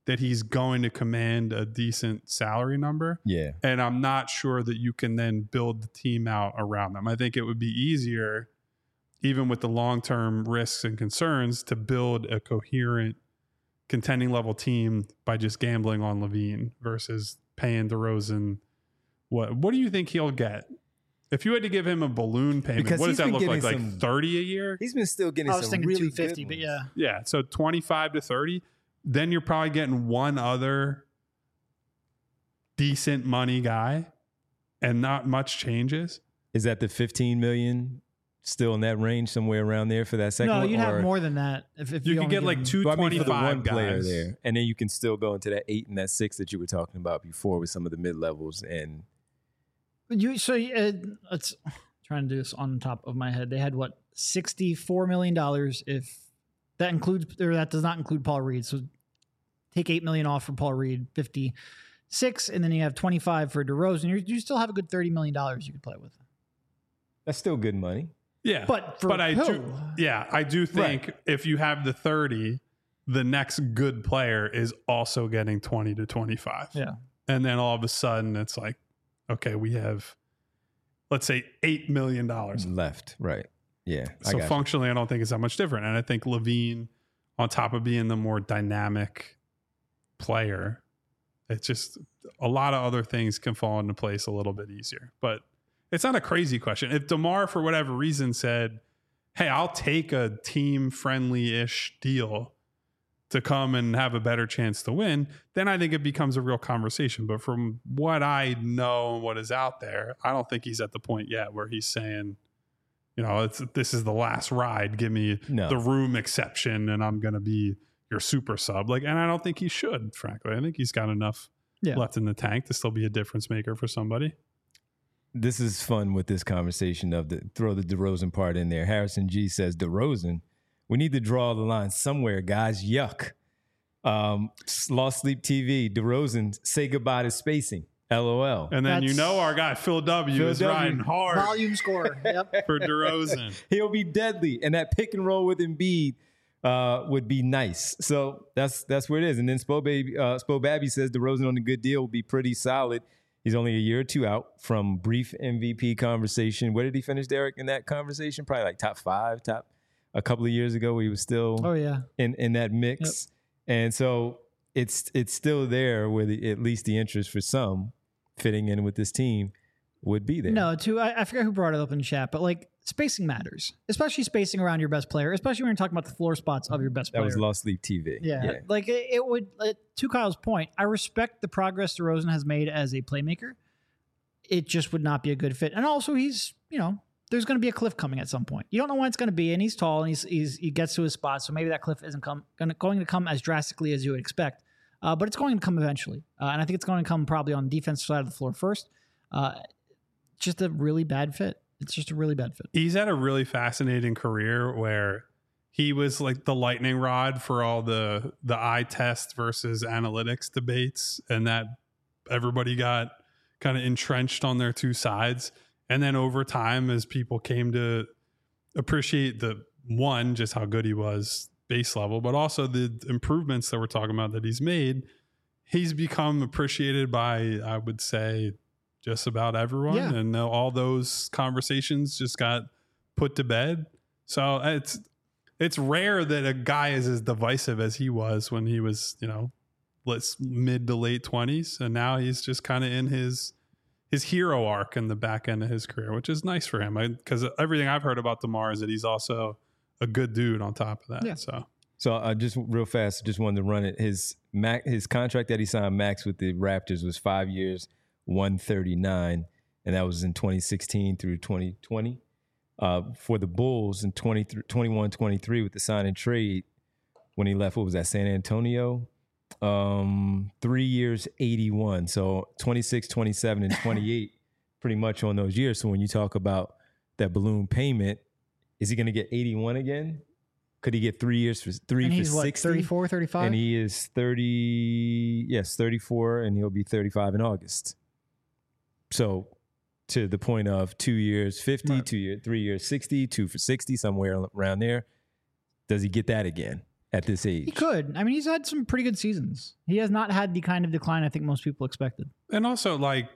that he's going to command a decent salary number. Yeah. And I'm not sure that you can then build the team out around them. I think it would be easier, even with the long-term risks and concerns, to build a coherent contending level team by just gambling on LaVine versus paying DeRozan. What what do you think he'll get? If you had to give him a balloon payment, Because what does he's that been look like? getting Like some- thirty a year? He's been still getting I was some thinking really two fifty, good but ones. yeah. Yeah, so twenty-five to thirty. Then you're probably getting one other decent money guy, and not much changes. Is that the fifteen million still in that range somewhere around there for that second No, one? you'd have Or- more than that. If, if You you could only get give like him- two But I mean, for the one twenty-five player guys there, and then you can still go into that eight and that six that you were talking about before with some of the mid levels. And You so uh, let's trying to do this on top of my head. They had what sixty-four million dollars if that includes or that does not include Paul Reed. So take eight million off for Paul Reed, fifty-six, and then you have twenty-five for DeRozan. You you still have a good thirty million dollars you could play with. that's still good money. Yeah, But for but I who? do, yeah, I do think Right. if you have the thirty, the next good player is also getting twenty to twenty-five. Yeah. And then all of a sudden it's like, okay, we have, let's say, eight million dollars. Left, right. Yeah. I So got you. functionally, I don't think it's that much different. And I think LaVine, on top of being the more dynamic player, it's just a lot of other things can fall into place a little bit easier. But it's not a crazy question. If DeMar, for whatever reason, said, hey, I'll take a team-friendly-ish deal to come and have a better chance to win, then I think it becomes a real conversation. But from what I know and what is out there, I don't think he's at the point yet where he's saying, you know, it's, this is the last ride. Give me No. the room exception and I'm going to be your super sub. Like, and I don't think he should, frankly. I think he's got enough Yeah. left in the tank to still be a difference maker for somebody. This is fun with this conversation of the throw the DeRozan part in there. Harrison G says, DeRozan, we need to draw the line somewhere, guys. Yuck. Um, Lost Sleep T V, DeRozan, say goodbye to spacing. LOL. And then you That's- know our guy Phil W Phil is W. riding hard Volume score. Yep. for DeRozan. He'll be deadly. And that pick and roll with Embiid uh, would be nice. So that's that's where it is. And then Spo Baby, uh, Spo Babby says DeRozan on a good deal will be pretty solid. He's only a year or two out from brief M V P conversation. Where did he finish, Derek, in that conversation? Probably like top five, top a couple of years ago. He was still Oh yeah. in, in that mix. And so it's it's still there where the, at least the interest for some fitting in with this team would be there. No, too. I, I forget who brought it up in chat, but like spacing matters, especially spacing around your best player, especially when you're talking about the floor spots of your best That player. was Lost Sleep T V. Yeah, like it, it would. Uh, to Kyle's point, I respect the progress DeRozan has made as a playmaker. It just would not be a good fit, and also he's, you know, there's going to be a cliff coming at some point. You don't know when it's going to be, and he's tall and he's, he's he gets to his spot, so maybe that cliff isn't come gonna, going to come as drastically as you would expect, uh, but it's going to come eventually, uh, and I think it's going to come probably on the defensive side of the floor first. Uh, just a really bad fit. It's just a really bad fit. He's had a really fascinating career where he was like the lightning rod for all the the eye test versus analytics debates, and that everybody got kind of entrenched on their two sides. And then over time, as people came to appreciate the one, just how good he was base level, but also the improvements that we're talking about that he's made, he's become appreciated by, I would say, just about everyone. Yeah. And all those conversations just got put to bed. So it's it's rare that a guy is as divisive as he was when he was, you know, let's mid to late twenties, and now he's just kind of in his his hero arc in the back end of his career, which is nice for him. Because everything I've heard about DeMar is that he's also a good dude on top of that. Yeah. So So uh, just real fast, just wanted to run it. His max, his contract that he signed max with the Raptors was five years, one thirty-nine, and that was in twenty sixteen through twenty twenty. Uh, for the Bulls in twenty-one twenty-three with the sign and trade, when he left, what was that, San Antonio? Um, three years, eighty-one. So twenty-six, twenty-seven, and twenty-eight, pretty much on those years. So when you talk about that balloon payment, is he going to get eighty-one again? Could he get three years for three And for he's what, sixty? thirty-four, thirty-five? And he is thirty, yes, thirty-four, and he'll be thirty-five in August. So to the point of two years, fifty, Right. two year, three years, sixty, two for sixty, somewhere around there. Does he get that again? at this age. He could. I mean, he's had some pretty good seasons. He has not had the kind of decline I think most people expected. And also, like,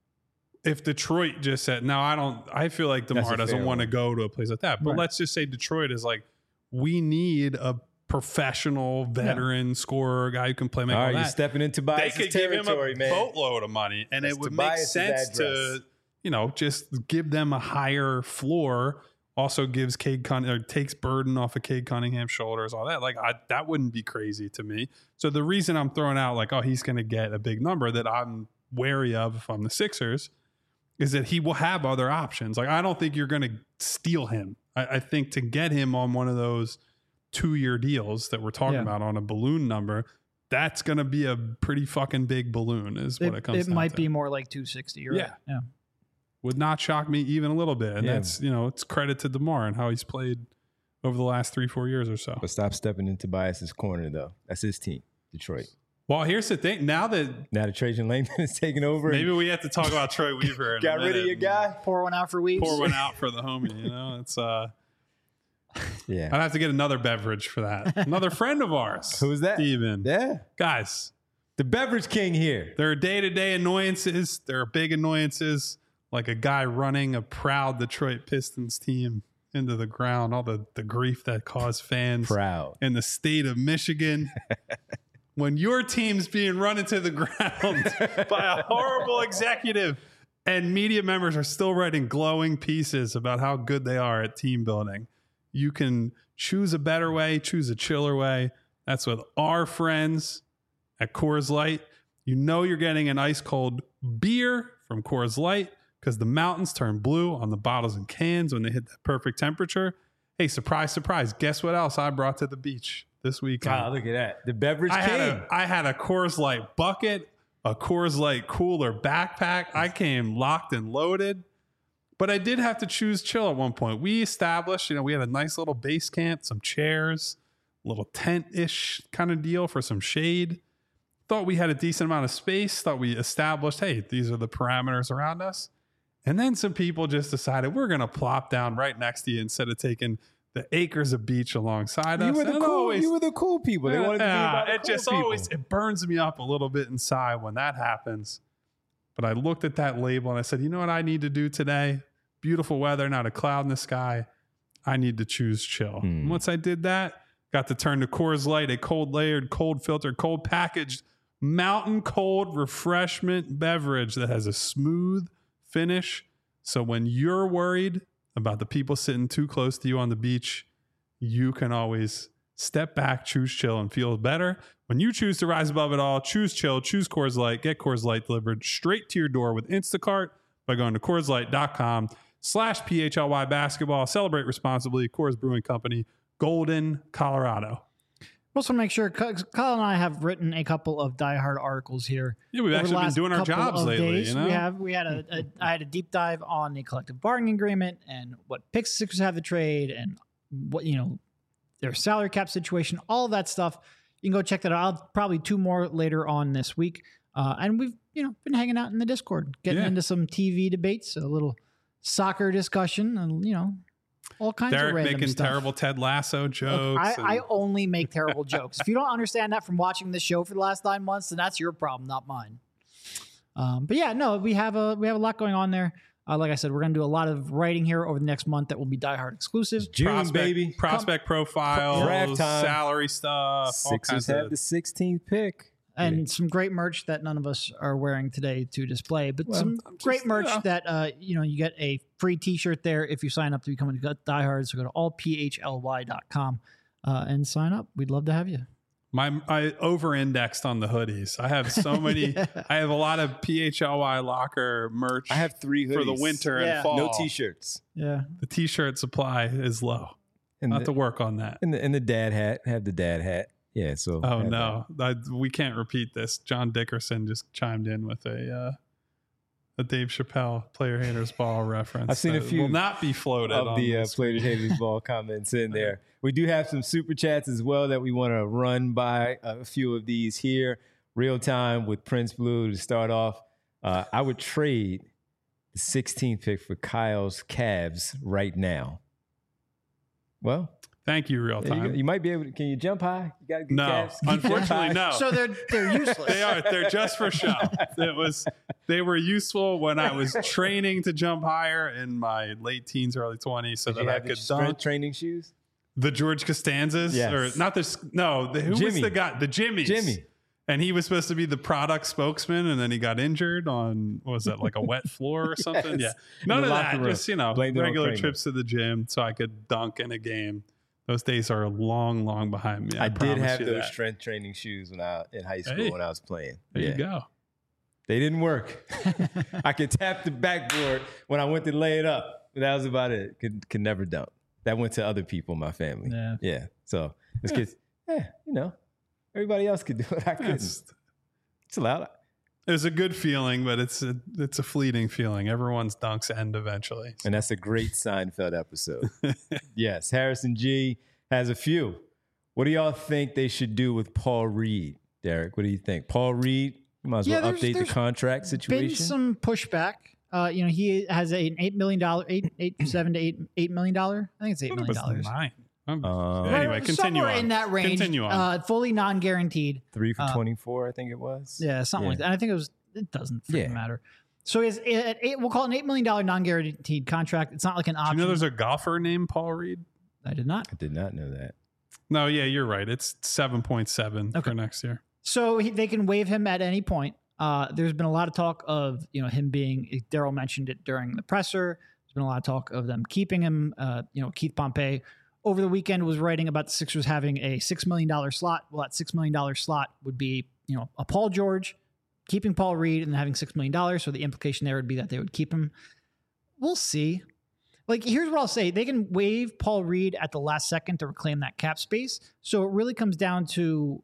if Detroit just said, now I don't, I feel like That's DeMar a doesn't fair want to one. go to a place like that. But Right. let's just say Detroit is like, we need a professional veteran scorer, guy who can play make All all right, you're that. stepping into They Tobias' could give him territory, a man. boatload of money, and That's it would Tobias's make sense address. to, you know, just give them a higher floor. Also gives Cade Cunningham, or takes burden off of Cade Cunningham's shoulders, all that. Like I, that wouldn't be crazy to me. So the reason I'm throwing out like, oh, he's going to get a big number that I'm wary of if I'm the Sixers is that he will have other options. Like I don't think you're going to steal him. I, I think to get him on one of those two year deals that we're talking Yeah. about on a balloon number, that's going to be a pretty fucking big balloon is what it, It, comes it down might to. be more like two sixty. You're Yeah. right. Yeah. Would not shock me even a little bit. And Yeah. that's, you know, it's credit to DeMar and how he's played over the last three, four years or so. But stop stepping into Tobias' corner, though. That's his team, Detroit. Well, here's the thing. Now that Now that Trajan Langdon is taking over, maybe we have to talk about Troy Weaver. In got a rid of minute your guy. Pour one out for Weaves. Pour one out for the homie. You know, it's uh, Yeah. I'd have to get another beverage for that. Another friend of ours. Who's that? Steven. Yeah. Guys, The beverage king here. there are day-to-day annoyances. There are big annoyances, like a guy running a proud Detroit Pistons team into the ground, all the, the grief that caused fans Proud. in the state of Michigan. When your team's being run into the ground by a horrible executive and media members are still writing glowing pieces about how good they are at team building, you can choose a better way, choose a chiller way. That's with our friends at Coors Light. You know you're getting an ice cold beer from Coors Light because the mountains turn blue on the bottles and cans when they hit that perfect temperature. Hey, surprise, surprise. Guess what else I brought to the beach this weekend? God, look at that. The beverage I king. had, a, I had a Coors Light bucket, a Coors Light cooler backpack. I came locked and loaded, but I did have to choose chill at one point. We established, you know, we had a nice little base camp, some chairs, a little tent-ish kind of deal for some shade. Thought we had a decent amount of space. Thought we established, hey, these are the parameters around us. And then some people just decided we're going to plop down right next to you instead of taking the acres of beach alongside you us. were the And cool. always- you were the cool people. They wanted to be yeah, about the it cool just people. always it burns me up a little bit inside when that happens. But I looked at that label and I said, you know what I need to do today? Beautiful weather, not a cloud in the sky. I need to choose chill. Hmm. And once I did that, got to turn to Coors Light, a cold layered, cold filtered, cold packaged, mountain cold refreshment beverage that has a smooth finish. So when you're worried about the people sitting too close to you on the beach, you can always step back, choose chill, and feel better. When you choose to rise above it all, choose chill, choose Coors Light, get Coors Light delivered straight to your door with Instacart by going to CoorsLight.com slash PHLY basketball. Celebrate responsibly. Coors Brewing Company, Golden, Colorado. Also, want to make sure Kyle and I have written a couple of diehard articles here. Yeah, we've over the actually been last doing our couple jobs of lately. days. You know? We have. We had a, a. I had a deep dive on the collective bargaining agreement and what picks the Sixers have to trade and what you know their salary cap situation. All of that stuff. You can go check that out. I'll probably two more later on this week. Uh, and we've you know been hanging out in the Discord, getting Yeah. into some T V debates, a little soccer discussion, and you know all kinds Derek of random making stuff. terrible Ted Lasso Look, jokes. I, and- I only make terrible jokes. If you don't understand that from watching this show for the last nine months, then that's your problem, not mine. Um, but yeah, no, we have a we have a lot going on there. Uh, like I said, we're going to do a lot of writing here over the next month that will be Die Hard exclusive. June, prospect, baby. prospect profiles, Draft time. salary stuff, all Sixers kinds have of the sixteenth pick. And some great merch that none of us are wearing today to display, but Well, some I'm just- great merch yeah. that uh, you know you get a free T-shirt there if you sign up to become a Die Hard. So go to all p h l y dot com uh, and sign up. We'd love to have you. My I over-indexed on the hoodies. I have so many. Yeah. I have a lot of P H L Y locker merch. I have three hoodies for the winter Yeah. and fall. No t-shirts. Yeah, The t-shirt supply is low. And Not the, to work on that. and the and the dad hat. Have the dad hat. Yeah. So. Oh have no, I, we can't repeat this. John Dickerson just chimed in with a uh, a Dave Chappelle player haters ball reference. I've seen a that few will not be floated of on the uh, this. Players Haters Ball comments in there. We do have some super chats as well that we want to run by a few of these here. Real time with Prince Blue to start off. Uh, I would trade the sixteenth pick for Kyle's Cavs right now. Well, Thank you, real There you, time. go. You might be able to. Can you jump high? You got good No, calves? Can you jump unfortunately, high? no. So they're they're useless. They are. They're just for show. It was. They were useful when I was training to jump higher in my late teens, early twenties, so Did that you I have the could strength dunk. training shoes? The George Costanzas, Yes. or not this? No, the, who was Jimmy. the guy? The Jimmys. Jimmy. And he was supposed to be the product spokesman, and then he got injured on what was that, like a wet floor or something? Yes. Yeah, none In of the that. locker room. Just you know, Blamed it on regular Kramer. trips to the gym so I could dunk in a game. Those days are long, long behind me. I, I did promise have you those that. strength training shoes when I in high school Hey. when I was playing. There Yeah. you go. They didn't work. I could tap the backboard when I went to lay it up. But that was about it. Could could never dunk. That went to other people in my family. Yeah. Yeah. So this kid's, yeah, you know, everybody else could do it. I couldn't. It's, It's allowed. it was a good feeling, but it's a it's a fleeting feeling. Everyone's dunks end eventually. And that's a great Seinfeld episode. Yes. Harrison G has a few. What do y'all think they should do with Paul Reed, Derek? What do you think? Paul Reed, you might as Yeah, well there's- update the there's contract Been situation. some pushback. Uh, you know, he has a, an eight million dollar, eight eight seven to eight eight million dollar. I think it's eight It million was dollars. nine. Um, Um, anyway, Right, continue somewhere on. in that range. Continue on. Uh, fully non-guaranteed. Three for uh, twenty-four, I think it was. Yeah, something Yeah. like that. And I think it was. It doesn't freaking Yeah. matter. So it's it, it, we'll call it an eight million dollar non-guaranteed contract. It's not like an Do option. you know there's a golfer named Paul Reed? I did not. I did not know that. No, yeah, you're right. It's seven point seven Okay. for next year. So he, they can waive him at any point. Uh, there's been a lot of talk of you know him being. Daryl mentioned it during the presser. There's been a lot of talk of them keeping him. Uh, you know, Keith Pompey over the weekend was writing about the Sixers having a six million dollar slot. Well, that six million dollar slot would be you know a Paul George, keeping Paul Reed, and having six million dollars. So the implication there would be that they would keep him. We'll see. Like, here's what I'll say. They can waive Paul Reed at the last second to reclaim that cap space. So it really comes down to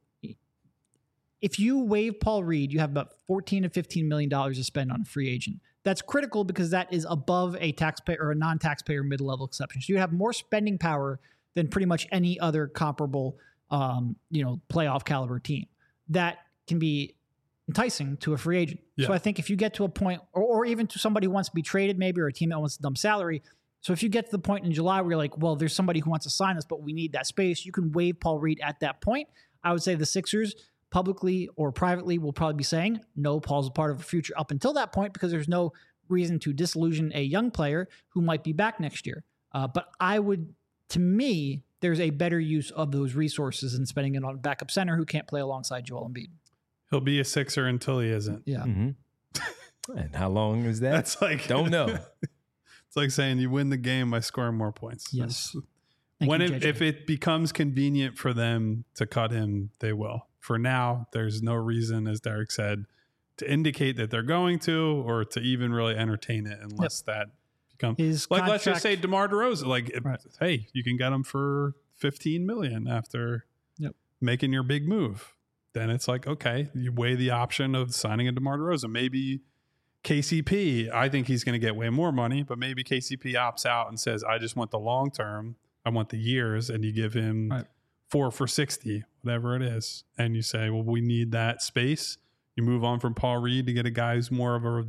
if you waive Paul Reed, you have about fourteen to fifteen million dollars to spend on a free agent. That's critical because that is above a taxpayer or a non-taxpayer mid-level exception. So you have more spending power than pretty much any other comparable, um, you know, playoff caliber team. That can be enticing to a free agent. Yeah. So I think if you get to a point, or, or even to somebody who wants to be traded, maybe, or a team that wants to dump salary. So if you get to the point in July where you're like, well, there's somebody who wants to sign us, but we need that space, you can waive Paul Reed at that point. I would say the Sixers, publicly or privately, will probably be saying, no, Paul's a part of the future up until that point, because there's no reason to disillusion a young player who might be back next year. Uh, but I would, to me, there's a better use of those resources than spending it on a backup center who can't play alongside Joel Embiid. He'll be a Sixer until he isn't. Yeah. Mm-hmm. And how long is that? That's like Don't know. It's like saying you win the game by scoring more points. Yes. That's- Thank when you, it, J J. if it becomes convenient for them to cut him, they will. For now, there's no reason, as Derek said, to indicate that they're going to, or to even really entertain it, unless that becomes His like. Let's just contract- say DeMar DeRozan. Like, if- Right. hey, you can get him for fifteen million after Yep. making your big move. Then it's like, okay, you weigh the option of signing a DeMar DeRozan. Maybe K C P, I think he's going to get way more money, but maybe K C P opts out and says, I just want the long term. I want the years. And you give him Right. four for sixty, whatever it is. And you say, well, we need that space. You move on from Paul Reed to get a guy who's more of a,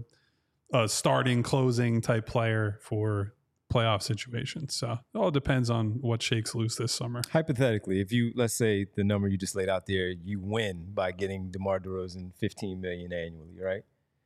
a starting, closing type player for playoff situations. So it all depends on what shakes loose this summer. Hypothetically, if you, let's say the number you just laid out there, you win by getting DeMar DeRozan fifteen million annually, right?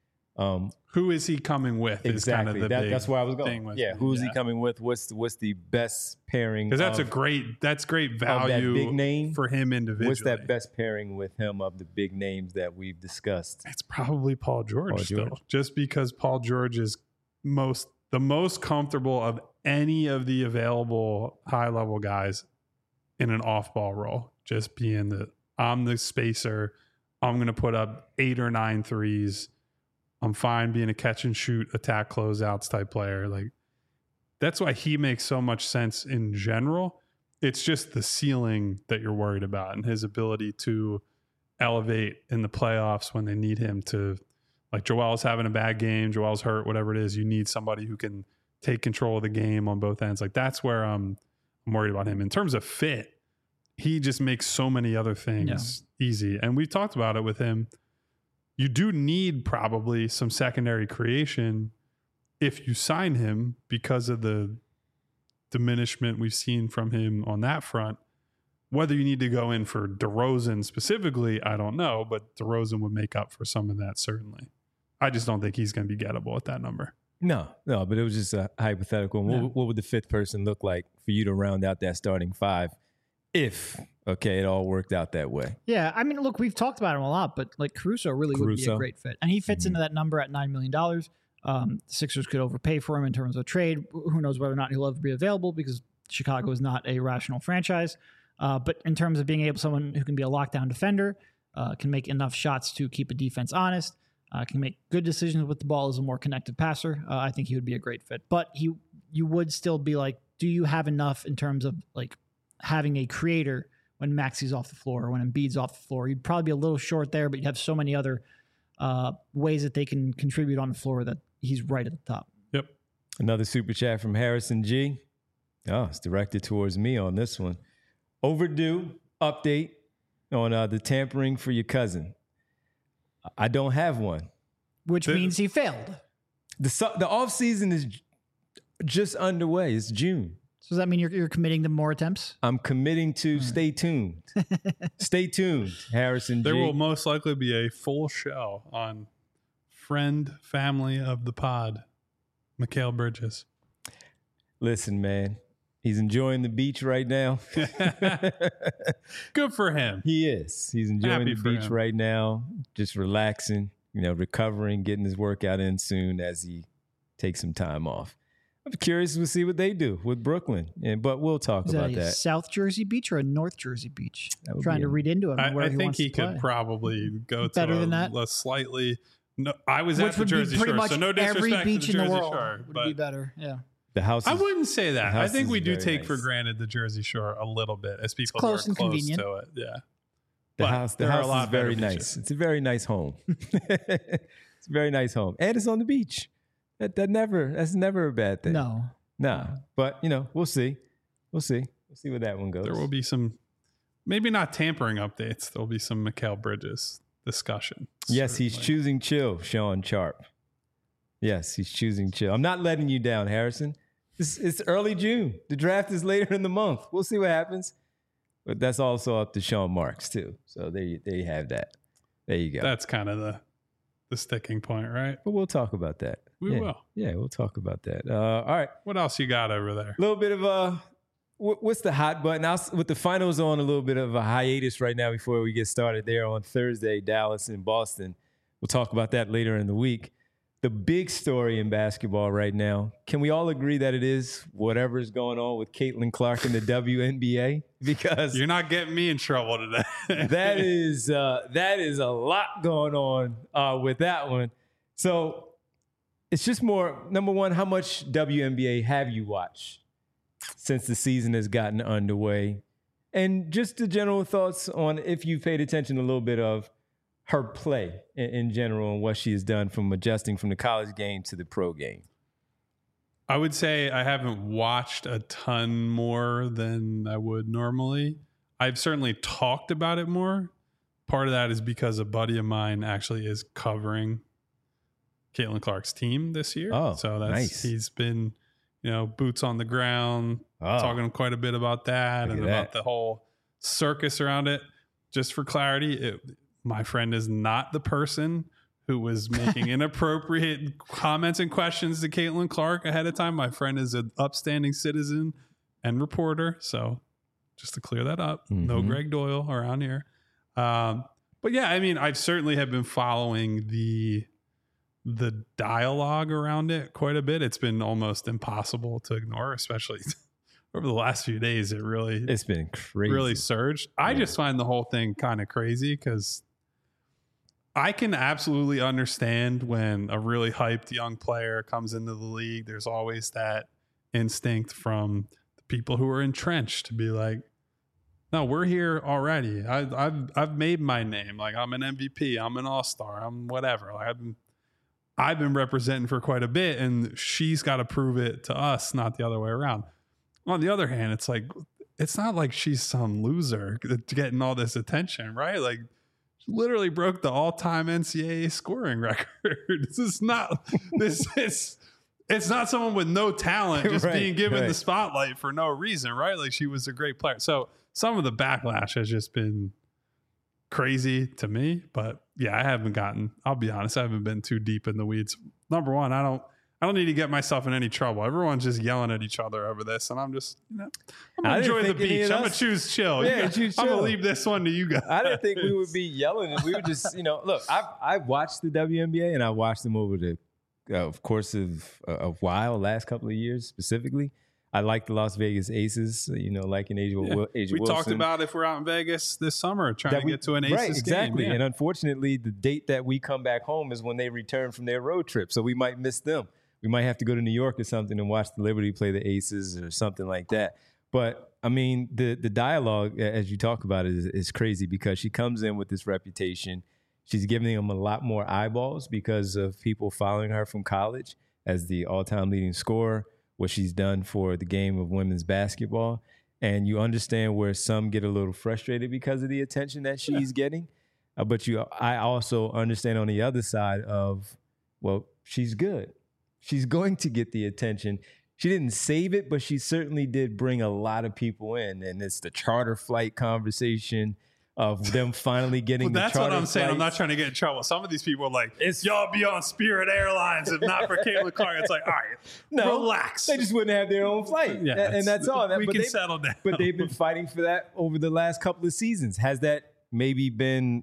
Um, Who is he coming with? Is exactly. kind of the That, big that's where I was thing going. with Yeah. me. Who's he Yeah. coming with? What's the, what's the best pairing? Because that's a of- great, that's great that value big name? for him individually. What's that best pairing with him of the big names that we've discussed? It's probably Paul George, Paul still, George. just because Paul George is most the most comfortable of any of the available high level guys in an off ball role. Just being the I'm the spacer, I'm going to put up eight or nine threes. I'm fine being a catch and shoot, attack closeouts type player. Like that's why he makes so much sense in general. It's just the ceiling that you're worried about and his ability to elevate in the playoffs when they need him to. Like Joel's having a bad game, Joel's hurt, whatever it is. You need somebody who can take control of the game on both ends. Like that's where I'm, I'm worried about him. In terms of fit, he just makes so many other things easy. And we've talked about it with him. You do need probably some secondary creation if you sign him because of the diminishment we've seen from him on that front. Whether you need to go in for DeRozan specifically, I don't know, but DeRozan would make up for some of that, certainly. I just don't think he's going to be gettable at that number. No, no, but it was just a hypothetical. What, Yeah. what would the fifth person look like for you to round out that starting five if, okay, it all worked out that way? Yeah, I mean, look, we've talked about him a lot, but like Caruso really would be a Caruso. great fit, and he fits Mhm. into that number at nine million dollars. Um, the Sixers could overpay for him in terms of a trade. Who knows whether or not he'll ever be available because Chicago is not a rational franchise. Uh, but in terms of being able, someone who can be a lockdown defender, uh, can make enough shots to keep a defense honest, uh, can make good decisions with the ball as a more connected passer. Uh, I think he would be a great fit. But he, you would still be like, do you have enough in terms of like having a creator when Maxi's off the floor or when Embiid's off the floor? You'd probably be a little short there, but you'd have so many other uh, ways that they can contribute on the floor that he's right at the top. Yep. Another super chat from Harrison G. Oh, it's directed towards me on this one. Overdue update on uh, the tampering for your cousin. I don't have one. Which The- means he failed. The su- the off season is j- just underway. It's June. So does that mean you're, you're committing to more attempts? I'm committing to stay tuned. Stay tuned, Harrison G. There will most likely be a full show on friend, family of the pod, Mikal Bridges. Listen, man. He's enjoying the beach right now. Good for him. He is. He's enjoying Happy the for beach him. right now, just relaxing, you know, recovering, getting his workout in soon as he takes some time off. I'm curious to see what they do with Brooklyn, and but we'll talk Is that about a that. South Jersey beach or a North Jersey beach? That would Trying be to a- read into it. I, where I he think wants he to could play. probably go Better to a, than that? a slightly. No, I was Which at the would Jersey be pretty Shore, much so no disrespect every beach to the in the Jersey world Shore, would but be better. Yeah, The house. I is- wouldn't say that. I house think is we do very take nice. for granted the Jersey Shore a little bit as people close who are and close convenient. to it. Yeah, The But house. The there are a house lot is very better nice. beaches. It's a very nice home. It's a very nice home, and it's on the beach. That that never. That's never a bad thing. no. Nah. But you know, we'll see. We'll see. We'll see where that one goes. there will be some, maybe not tampering updates. There'll be some Mikal Bridges discussion. Yes, he's certainly. choosing chill, Sean Sharp. Yes, he's choosing chill. I'm not letting you down, Harrison. It's, it's early June. The draft is later in the month. We'll see what happens. But that's also up to Sean Marks, too. So there you, there you have that. There you go. That's kind of the the sticking point, right? but we'll talk about that. We yeah. will. Yeah, we'll talk about that. Uh, all right. What else you got over there? A little bit of a wh- what's the hot button? I'll, with the finals on, a little bit of a hiatus right now before we get started there on Thursday, Dallas and Boston. We'll talk about that later in the week. The big story in basketball right now, can we all agree that it is whatever's going on with Caitlin Clark in the W N B A? Because You're not getting me in trouble today. that is uh, that is a lot going on uh, with that one. So it's just more, number one, how much W N B A have you watched since the season has gotten underway? And just the general thoughts on if you've paid attention a little bit of her play in, in general and what she has done from adjusting from the college game to the pro game. I would say I haven't watched a ton more than I would normally. I've certainly talked about it more. Part of that is because a buddy of mine actually is covering Caitlin Clark's team this year. Oh, so that's nice. he's been, you know, boots on the ground, Oh. talking quite a bit about that Look and at about that. the whole circus around it. Just for clarity, it, my friend is not the person who was making inappropriate comments and questions to Caitlin Clark ahead of time. My friend is an upstanding citizen and reporter. So just to clear that up, no Mhm. Greg Doyle around here. Um, but yeah, I mean, I've certainly have been following the the dialogue around it quite a bit. It's been almost impossible to ignore, especially over the last few days. It really It's been crazy. really surged. I Yeah. just find the whole thing kind of crazy because I can absolutely understand when a really hyped young player comes into the league. There's always that instinct from the people who are entrenched to be like, no, we're here already. I, I've I've made my name. Like I'm an M V P. I'm an All Star. I'm whatever. Like I've been, I've been representing for quite a bit, and she's got to prove it to us, not the other way around. On the other hand, it's like it's not like she's some loser getting all this attention, right? Like she literally broke the all-time N C double A scoring record. This is not this is it's not someone with no talent just Right, being given right. the spotlight for no reason, right? Like she was a great player. So some of the backlash has just been crazy to me. But yeah, I haven't gotten, I'll be honest, I haven't been too deep in the weeds. Number one, I don't I don't need to get myself in any trouble. Everyone's just yelling at each other over this, and I'm just, you know, I'm I gonna didn't enjoy the think any beach. of I'm gonna us- choose chill. Yeah, You guys- choose I'm gonna chill. leave this one to you guys. I didn't think we would be yelling. And we would just, you know, look, I've, I've watched the W N B A and I watched them over the uh, course of a while, last couple of years specifically. I like the Las Vegas Aces, you know, like an Asia, Yeah. Asia We Wilson. talked about if we're out in Vegas this summer trying that to we- get to an Aces right, game. exactly. Yeah. And unfortunately, the date that we come back home is when they return from their road trip. So we might miss them. We might have to go to New York or something and watch the Liberty play the Aces or something like that. But I mean, the the dialogue, as you talk about it, is, is crazy because she comes in with this reputation. She's giving them a lot more eyeballs because of people following her from college as the all-time leading scorer, what she's done for the game of women's basketball. And you understand where some get a little frustrated because of the attention that she's getting. Uh, but you, I also understand on the other side of, well, she's good. She's going to get the attention. She didn't save it, but she certainly did bring a lot of people in. And it's the charter flight conversation of them finally getting Well, the that's charter what I'm saying. I'm not flights. trying to get in trouble. Some of these people are like, It's- y'all be on Spirit Airlines if not for Caitlin Clark. It's like, all right, No, relax. They just wouldn't have their own flight. Yeah, and, and it's- that's all. That, we but can they- settle down. But they've been fighting for that over the last couple of seasons. Has that maybe been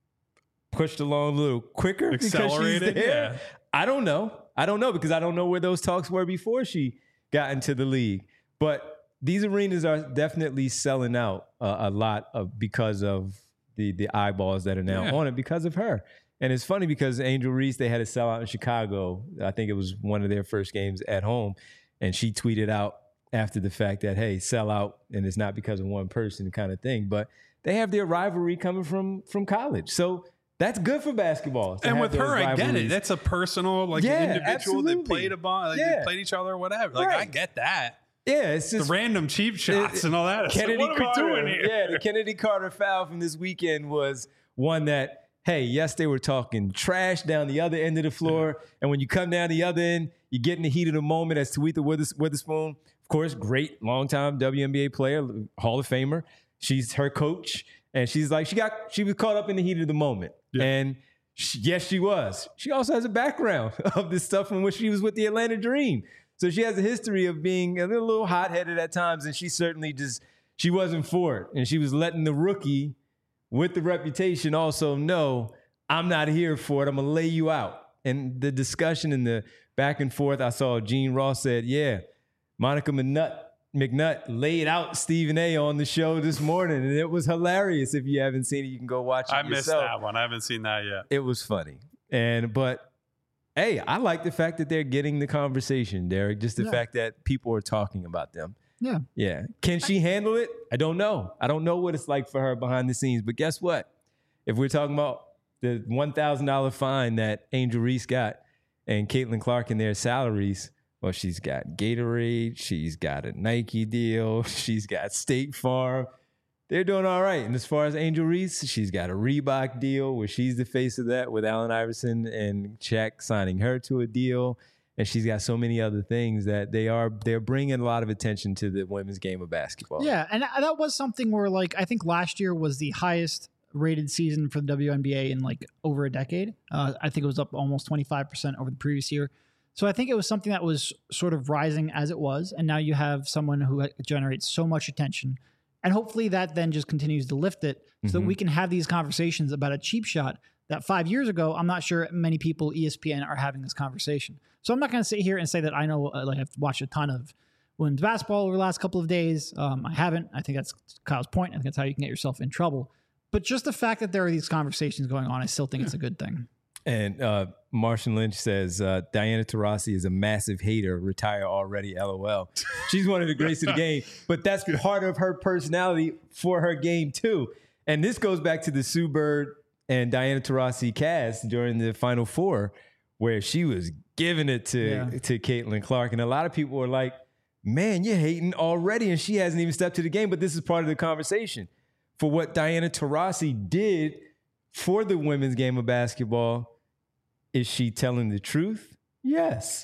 pushed along a little quicker Accelerated, because she's there? yeah. I don't know. I don't know because I don't know where those talks were before she got into the league. But these arenas are definitely selling out uh, a lot of because of the the eyeballs that are now Yeah. on it because of her. And it's funny because Angel Reese, they had a sellout in Chicago. I think it was one of their first games at home. And she tweeted out after the fact that, hey, sell out, and it's not because of one person kind of thing. But they have their rivalry coming from from college. So that's good for basketball. to And have with those her, I get it. rivalries. That's a personal, like Yeah, an individual. They absolutely. played a bond, like Yeah. they played each other, or whatever. Like I Right. get that. Yeah, it's The just random cheap shots it- and all that. It's like, Kennedy what are Carter. we doing here? Yeah, the Kennedy Carter foul from this weekend was one that, hey, yes, they were talking trash down the other end of the floor. And when you come down the other end, you get in the heat of the moment as Tawitha Withers- Witherspoon, of course, great longtime W N B A player, Hall of Famer. She's her coach. And she's like, she got, she was caught up in the heat of the moment. Yeah. And she, yes, she was. She also has a background of this stuff from when she was with the Atlanta Dream. So she has a history of being a little, little hot-headed at times, and she certainly just, she wasn't for it. And she was letting the rookie with the reputation also know, I'm not here for it. I'm going to lay you out. And the discussion and the back and forth, I saw Gene Ross said, yeah, Monica McNutt, McNutt laid out Stephen A on the show this morning, and it was hilarious. If you haven't seen it, you can go watch it I missed yourself. that one. I haven't seen that yet. It was funny. And, but, hey, I like the fact that they're getting the conversation, Derek. Just the Yeah. fact that people are talking about them. Yeah. Yeah. Can she handle it? I don't know. I don't know what it's like for her behind the scenes. But guess what? If we're talking about the one thousand dollars fine that Angel Reese got and Caitlin Clark and their salaries, well, she's got Gatorade. She's got a Nike deal. She's got State Farm. They're doing all right. And as far as Angel Reese, she's got a Reebok deal where she's the face of that with Allen Iverson and Shaq signing her to a deal. And she's got so many other things that they are, they're bringing a lot of attention to the women's game of basketball. Yeah, and that was something where, like, I think last year was the highest rated season for the W N B A in like over a decade. Uh, I think it was up almost twenty-five percent over the previous year. So I think it was something that was sort of rising as it was. And now you have someone who generates so much attention. And hopefully that then just continues to lift it so that Mhm. we can have these conversations about a cheap shot that five years ago, I'm not sure many people, E S P N, are having this conversation. So I'm not going to sit here and say that I know, uh, like I've watched a ton of women's basketball over the last couple of days. Um, I haven't. I think that's Kyle's point. I think that's how you can get yourself in trouble. But just the fact that there are these conversations going on, I still think it's a good thing. And uh, Martian Lynch says, uh, Diana Taurasi is a massive hater. Retire already, LOL. She's one of the greats of the game, but that's part of her personality for her game too. And this goes back to the Sue Bird and Diana Taurasi cast during the Final Four, where she was giving it to, Yeah. to Caitlin Clark. And a lot of people were like, man, you're hating already. And she hasn't even stepped to the game. But this is part of the conversation. For what Diana Taurasi did for the women's game of basketball, is she telling the truth? Yes.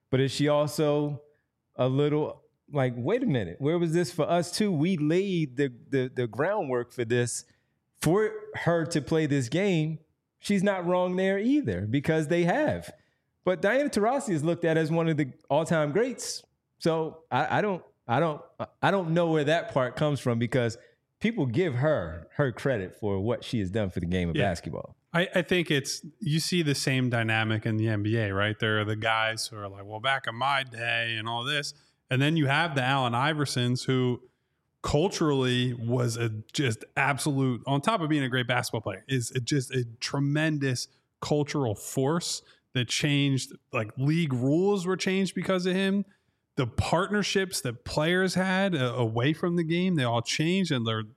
but is she also a little like, wait a minute, where was this for us too? We laid the the, the groundwork for this for her to play this game. She's not wrong there either because they have. But Diana Taurasi is looked at as one of the all-time greats. So I, I don't, I don't, I don't know where that part comes from because people give her her credit for what she has done for the game of Yeah. basketball. I, I think it's, you see the same dynamic in the N B A, right? There are the guys who are like, well, back in my day and all this. And then you have the Allen Iversons who culturally was a just absolute, on top of being a great basketball player, is a, just a tremendous cultural force that changed, like league rules were changed because of him. The partnerships that players had uh, away from the game, they all changed, and there's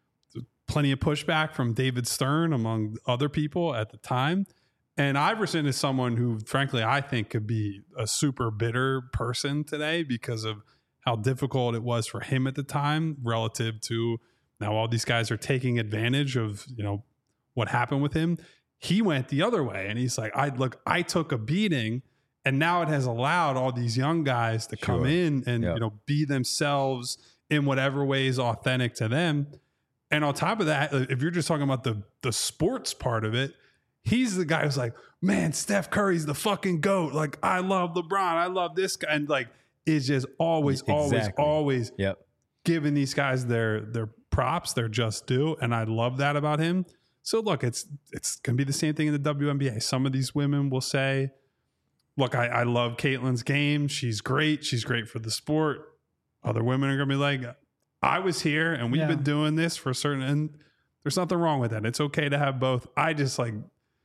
plenty of pushback from David Stern among other people at the time. And Iverson is someone who, frankly, I think could be a super bitter person today because of how difficult it was for him at the time relative to now all these guys are taking advantage of, you know, what happened with him. He went the other way and he's like, I look, I took a beating and now it has allowed all these young guys to come Sure. in and, Yep. you know, be themselves in whatever way is authentic to them. And on top of that, if you're just talking about the the sports part of it, he's the guy who's like, man, Steph Curry's the fucking GOAT. Like, I love LeBron. I love this guy. And like, is just always, always, Exactly. always Yep. giving these guys their their props, their just due. And I love that about him. So look, it's it's gonna be the same thing in the W N B A. Some of these women will say, look, I, I love Caitlin's game. She's great. She's great for the sport. Other women are gonna be like, I was here and we've Yeah. been doing this for a certain, and there's nothing wrong with that. It's okay to have both. I just like,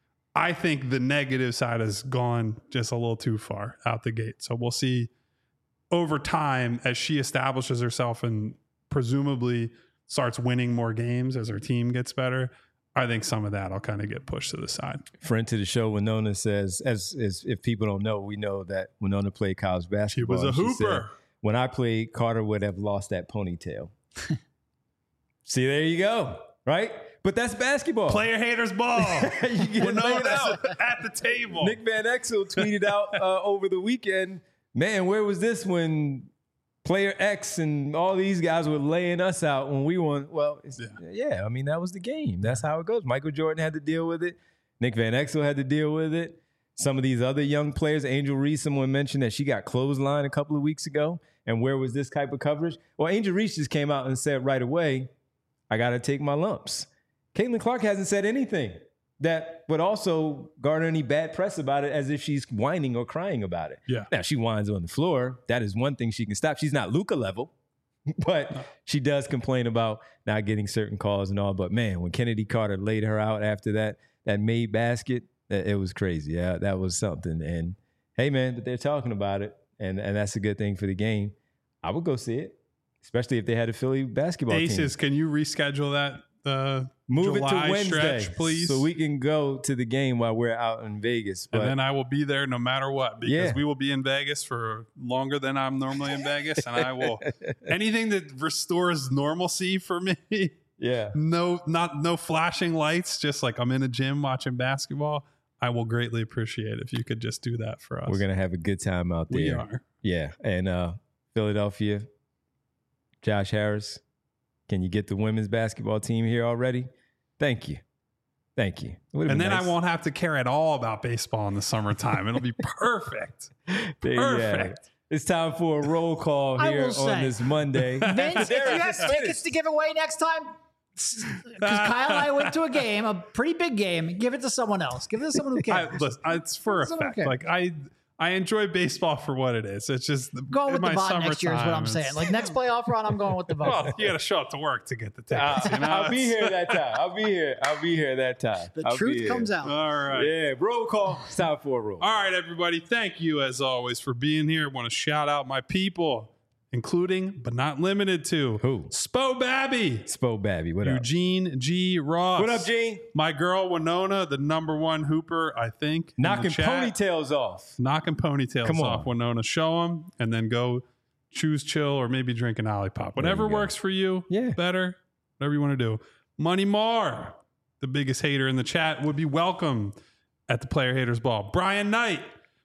I think the negative side has gone just a little too far out the gate. So we'll see over time as she establishes herself and presumably starts winning more games as her team gets better. I think some of that will kind of get pushed to the side. Friend to the show, Winona says, as, as if people don't know, we know that Winona played college She basketball. was a and she said, hooper. when I played, Carter would have lost that ponytail. See, there you go. Right? But that's basketball. Player haters ball. You get Winona laid out. at the table. Nick Van Exel tweeted out uh, over the weekend, man, where was this when player X and all these guys were laying us out when we won? Well, it's, yeah. yeah, I mean, that was the game. That's how it goes. Michael Jordan had to deal with it. Nick Van Exel had to deal with it. Some of these other young players, Angel Reese, someone mentioned that she got clotheslined a couple of weeks ago. And where was this type of coverage? Well, Angel Reese just came out and said right away, I got to take my lumps. Caitlin Clark hasn't said anything that would also garner any bad press about it as if she's whining or crying about it. Yeah. Now, she whines on the floor. That is one thing she can stop. She's not Luka level, but No. she does complain about not getting certain calls and all. But, man, when Kennedy Carter laid her out after that, that made basket, it was crazy. Yeah, that was something. And, hey, man, but they're talking about it, and, and that's a good thing for the game. I would go see it, especially if they had a Philly basketball team. Aces, can you reschedule that uh, Move July it to Wednesday, stretch, please? so we can go to the game while we're out in Vegas. But and then I will be there no matter what, because Yeah. we will be in Vegas for longer than I'm normally in Vegas. And I will, anything that restores normalcy for me, yeah, no, not, no flashing lights, just like I'm in a gym watching basketball. I will greatly appreciate if you could just do that for us. we're gonna have a good time out there. We are. Yeah, and uh, Philadelphia, Josh Harris, can you get the women's basketball team here already? Thank you, thank you. And then I won't have to care at all about baseball in the summertime. It'll be perfect. There you have it. Perfect. It's time for a roll call I here will on say, this Monday. Vince, if you have tickets to give away next time, because Kyle and I went to a game, a pretty big game, give it to someone else. Give it to someone who I, cares. listen, it's for Someone effect. cares. Like I, I enjoy baseball for what it is. It's just Going in with the my bot next year is what I'm summertime, saying. it's- Like next playoff run, I'm going with the well, vote. you got to show up to work to get the tickets. I'll, You know? I'll be It's- here that time. I'll be here. I'll be here that time. The I'll be truth here. comes out. All right. Yeah, roll call. It's time for a roll. All right, everybody. Thank you, as always, for being here. I want to shout out my people, including, but not limited to, Who? Spo Babby, Spo Babby, what up? Eugene G. Ross. What up, Gene? My girl, Winona, the number one hooper, I think. in the Knocking chat. ponytails off. Knocking ponytails Come on. off, Winona. Show them, and then go choose chill or maybe drink an Olipop. Whatever you go. works for you. Yeah. Better. Whatever you want to do. Money Marr, the biggest hater in the chat, would be welcome at the Player Haters Ball. Brian Knight,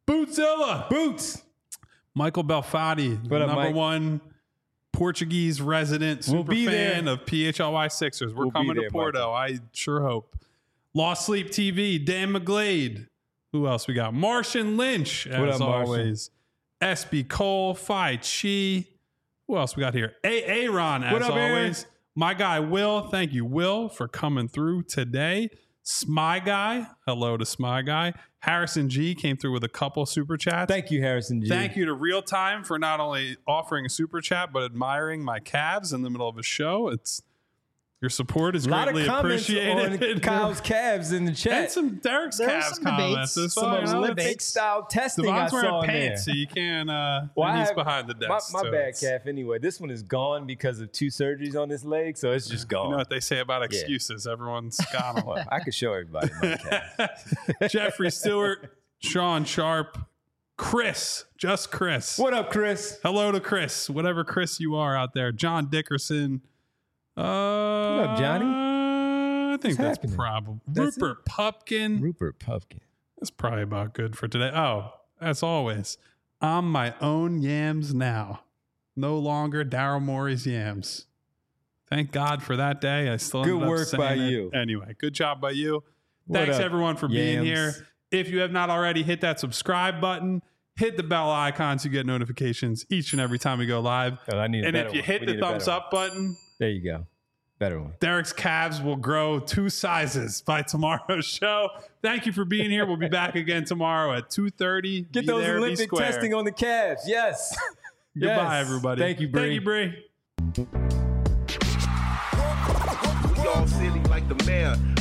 Bootzilla. Boots. Michael Belfatti, What up, number Mike? one Portuguese resident We'll super be fan there. of P H L Y Sixers. We're We'll be coming there, to Porto. I sure hope. Lost Sleep T V, Dan McGlade. Who else we got? Martian Lynch, as What up, Martian? always. S B Cole, Phi Chi. Who else we got here? A Aaron, as What up, Aaron? always. My guy, Will. Thank you, Will, for coming through today. Smy Guy. Hello to Smy Guy. Harrison G came through with a couple super chats. Thank you, Harrison G. Thank you to Real Time for not only offering a super chat, but admiring my calves in the middle of a show. It's your support is A lot of greatly comments appreciated. on Kyle's calves in the chat. And some Derek's There were calves some debates. comments. As Some well, you know, Olympic it's- style testing I Devon's saw wearing in there. pants, so you can. Uh, Well, and I he's have- behind the My, desk. my so bad it's- calf anyway. This one is gone because of two surgeries on this leg, so it's just gone. You know what they say about excuses? Everyone's got them. Well, I could show everybody my calf. Jeffrey Stewart, Sean Sharp, Chris, just Chris. What up, Chris? Hello to Chris, whatever Chris you are out there. John Dickerson. Uh, what up, Johnny? I think What's that's happening? probably That's Rupert Pupkin. Rupert Pumpkin. That's probably about good for today. Oh, as always, I'm my own yams now. No longer Daryl Morey's yams. Thank God for that day. I still Good ended up work saying by it. you. Anyway, good job by you. What Thanks up, everyone for being yams? here. If you have not already, hit that subscribe button. Hit the bell icon so you get notifications each and every time we go live. Oh, I need a And better if you one. hit We the need a better thumbs one. up button, There you go. Better one. Derek's calves will grow two sizes by tomorrow's show. Thank you for being here. We'll be back again tomorrow at two thirty. Get Be those there, be Olympic square. testing on the calves. Yes. Goodbye, Yes. everybody. Thank you, Bree. Thank you, Bree. We all silly like the mayor.